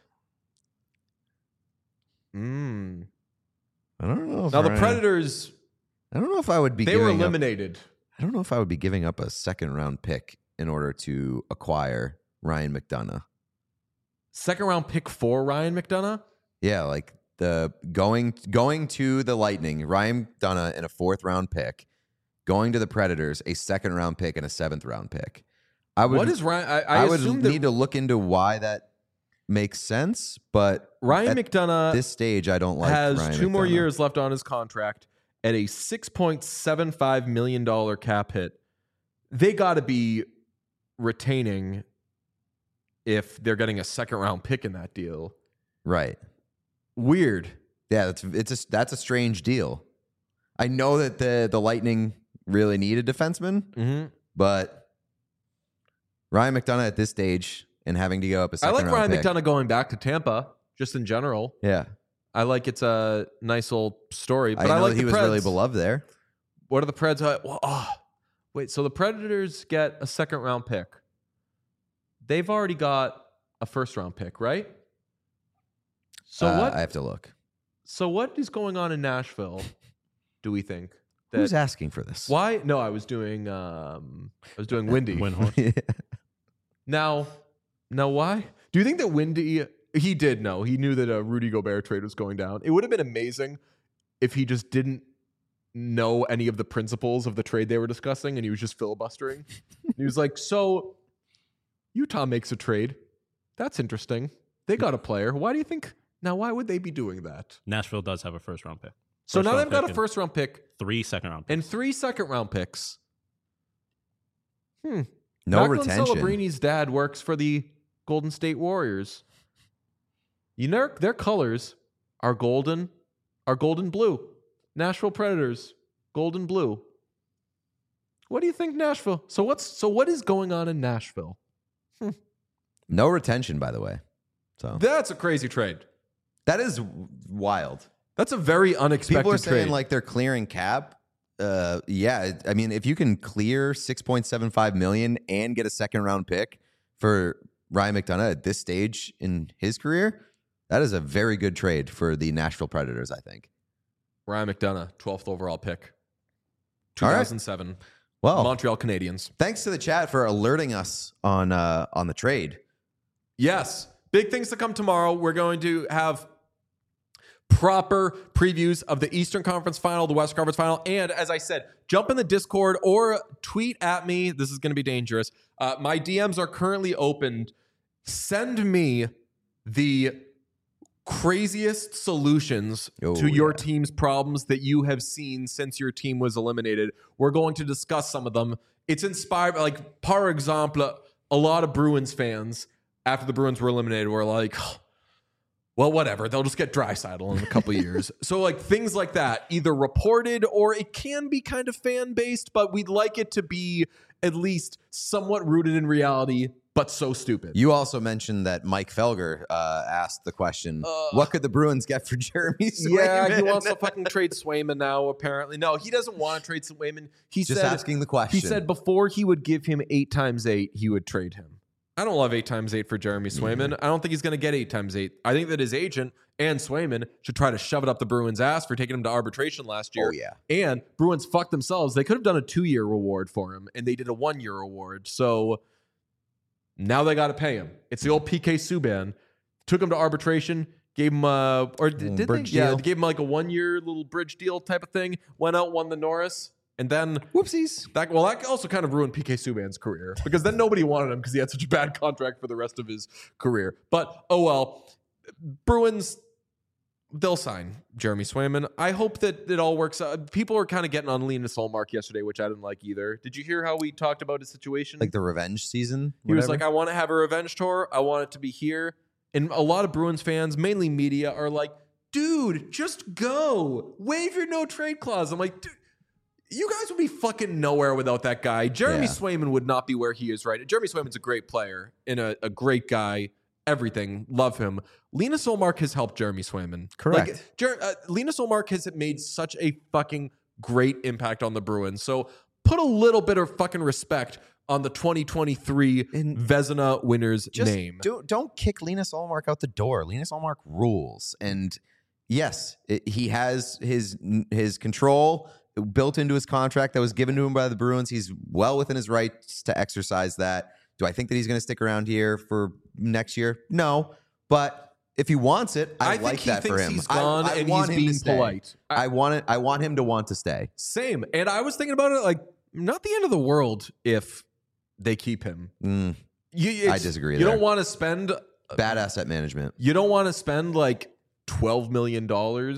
I don't know. If Now the Ryan- Predators, I don't know if I would be. they were giving up- eliminated. I don't know if I would be giving up a 2nd-round pick in order to acquire Ryan McDonough. 2nd round pick for Ryan McDonough. Yeah, like the going to the Lightning, Ryan McDonough and a 4th-round pick, going to the Predators, a 2nd-round pick and a 7th-round pick. I would. What is Ryan? I would assume need that to look into why that makes sense, but Ryan at McDonough this stage, I don't like. has Ryan 2 more McDonough. years left on his contract at a $6.75 million cap hit. They got to be retaining if they're getting a second round pick in that deal. Right. Weird. Yeah, that's a strange deal. I know that the Lightning really need a defenseman, but Ryan McDonagh at this stage and having to go up a second round pick. I like Ryan McDonagh going back to Tampa, just in general. Yeah. I like it's a nice old story. But I know like he was really beloved there. What are the Preds? Wait, so the Predators get a second round pick. They've already got a first round pick, right? So what? I have to look. So what is going on in Nashville, do we think? Who's asking for this? Why? No, I was doing Windy. Windhorst. Now why? Do you think that Windy, he did know. He knew that a Rudy Gobert trade was going down. It would have been amazing if he just didn't know any of the principles of the trade they were discussing and he was just filibustering. He was like, so Utah makes a trade. That's interesting. They got a player. Why do you think? Now, why would they be doing that? Nashville does have a first round pick. So now they've got a first round pick. 3 second round picks. And 3 second round picks. No Macklin retention. Celebrini's dad works for the Golden State Warriors. You know, their colors are golden blue. Nashville Predators, golden blue. What do you think, Nashville? So what is going on in Nashville? No retention, by the way. So That's a crazy trade. that is wild. That's a very unexpected People are trade. saying like they're clearing cap. Yeah, I mean, if you can clear $6.75 million and get a second round pick for Ryan McDonagh at this stage in his career, that is a very good trade for the Nashville Predators, I think. Ryan McDonagh, 12th overall pick, All right. 2007. Well, Montreal Canadiens. thanks to the chat for alerting us on the trade. Yes. Big things to come tomorrow. We're going to have proper previews of the Eastern Conference Final, the Western Conference Final, and as I said, jump in the Discord or tweet at me. This is going to be dangerous. My DMs are currently opened. Send me the craziest solutions to your team's problems that you have seen since your team was eliminated. We're going to discuss some of them. It's inspired, like, par exemple, a lot of Bruins fans, after the Bruins were eliminated, were like, well, whatever. They'll just get Draisaitl in a couple of years. So, like, things like that, either reported or it can be kind of fan-based, but we'd like it to be at least somewhat rooted in reality, but so stupid. You also mentioned that Mike Felger asked the question, what could the Bruins get for Jeremy Swayman? Yeah, he wants to fucking trade Swayman now, apparently. No, he doesn't want to trade Swayman. He Just said, asking the question. He said before he would give him 8x8, he would trade him. I don't love 8x8 for Jeremy Swayman. I don't think he's going to get 8x8. I think that his agent and Swayman should try to shove it up the Bruins' ass for taking him to arbitration last year. Oh, yeah. And Bruins fucked themselves. They could have done a 2-year reward for him, and they did a 1-year reward. So now they got to pay him. It's the old PK Subban. Took him to arbitration, gave him did they? Bridge Yeah, deal. they gave him like a 1-year little bridge deal type of thing. Went out, won the Norris. And then, whoopsies. That also kind of ruined PK Subban's career because then nobody wanted him because he had such a bad contract for the rest of his career. But, oh well, Bruins, they'll sign Jeremy Swayman. I hope that it all works out. People are kind of getting on Linus Ullmark yesterday, which I didn't like either. Did you hear how we talked about his situation? Like the revenge season? He was like, I want to have a revenge tour. I want it to be here. And a lot of Bruins fans, mainly media, are like, dude, just go. Waive your no trade clause. I'm like, dude. You guys would be fucking nowhere without that guy. Jeremy Swayman would not be where he is right. Jeremy Swayman's a great player and a great guy. Everything. Love him. Linus Ullmark has helped Jeremy Swayman. Correct. Linus Ullmark has made such a fucking great impact on the Bruins. So put a little bit of fucking respect on the 2023 Vezina winner's name. Don't kick Linus Ullmark out the door. Linus Ullmark rules. And yes, he has his control built into his contract that was given to him by the Bruins. He's well within his rights to exercise that. Do I think that he's going to stick around here for next year? No. But if he wants it, I like that for him. He's gone I and want he's him being to stay. polite. I want him to want to stay. Same. And I was thinking about it like, not the end of the world if they keep him. I disagree. You don't want to spend bad asset management. You don't want to spend like $12 million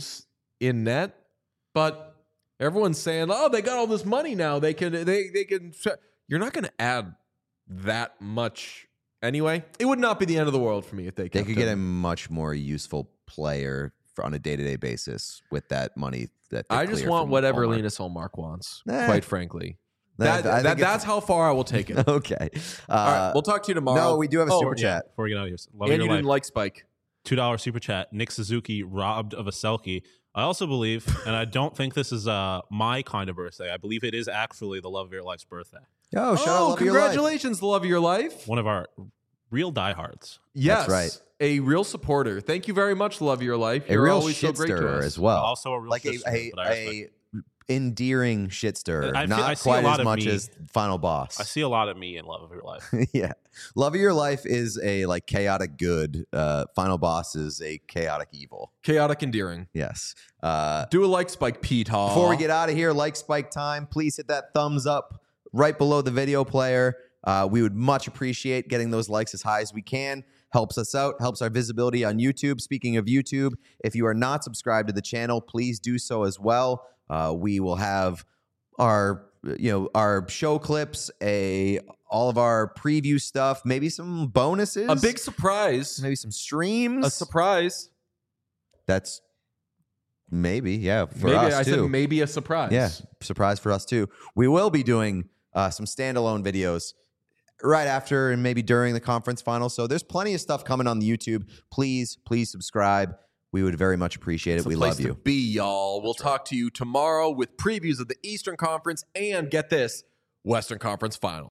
in net, but everyone's saying, "Oh, they got all this money now. They can." You're not going to add that much anyway, it would not be the end of the world for me if they They kept could get a him. much more useful player on a day-to-day basis with that money. That they I just clear want from whatever Allmark. Linus Allmark wants, Eh. quite frankly. I think That's how far I will take it. okay. All right, we'll talk to you tomorrow. No, we do have a super chat. Before we get out of here, love And your you life. didn't like Spike. $2 super chat. Nick Suzuki robbed of a Selkie. I also believe, and I don't think this is my kind of birthday. I believe it is actually the love of your life's birthday. Oh, shout out, Love of Your Life. Congratulations, the love of your life. One of our real diehards. Yes, That's right. A real supporter. Thank you very much, love of your life. A You're real always so shit great to stirrer us. as well. Also a real like sister, a but I respect endearing shit stirrer, I not see a quite lot as of much me. as Final Boss. I see a lot of me in love of your life. Yeah, Love of Your Life is a like chaotic good. Final Boss is a chaotic evil. Chaotic endearing. Yes. Do a like Spike, Pete. Before we get out of here, like Spike time, please hit that thumbs up right below the video player. We would much appreciate getting those likes as high as we can. Helps us out, helps our visibility on YouTube. Speaking of YouTube, if you are not subscribed to the channel, please do so as well. We will have our show clips, all of our preview stuff, maybe some bonuses, a big surprise. maybe some streams. A surprise. That's maybe, yeah, for Maybe us I too. said maybe a surprise. Yeah, surprise for us too. We will be doing some standalone videos right after and maybe during the conference final. So there's plenty of stuff coming on the YouTube. Please subscribe. We would very much appreciate it. It's a We place love you. to be, y'all. We'll talk to you tomorrow with previews of the Eastern Conference and get this, Western Conference final.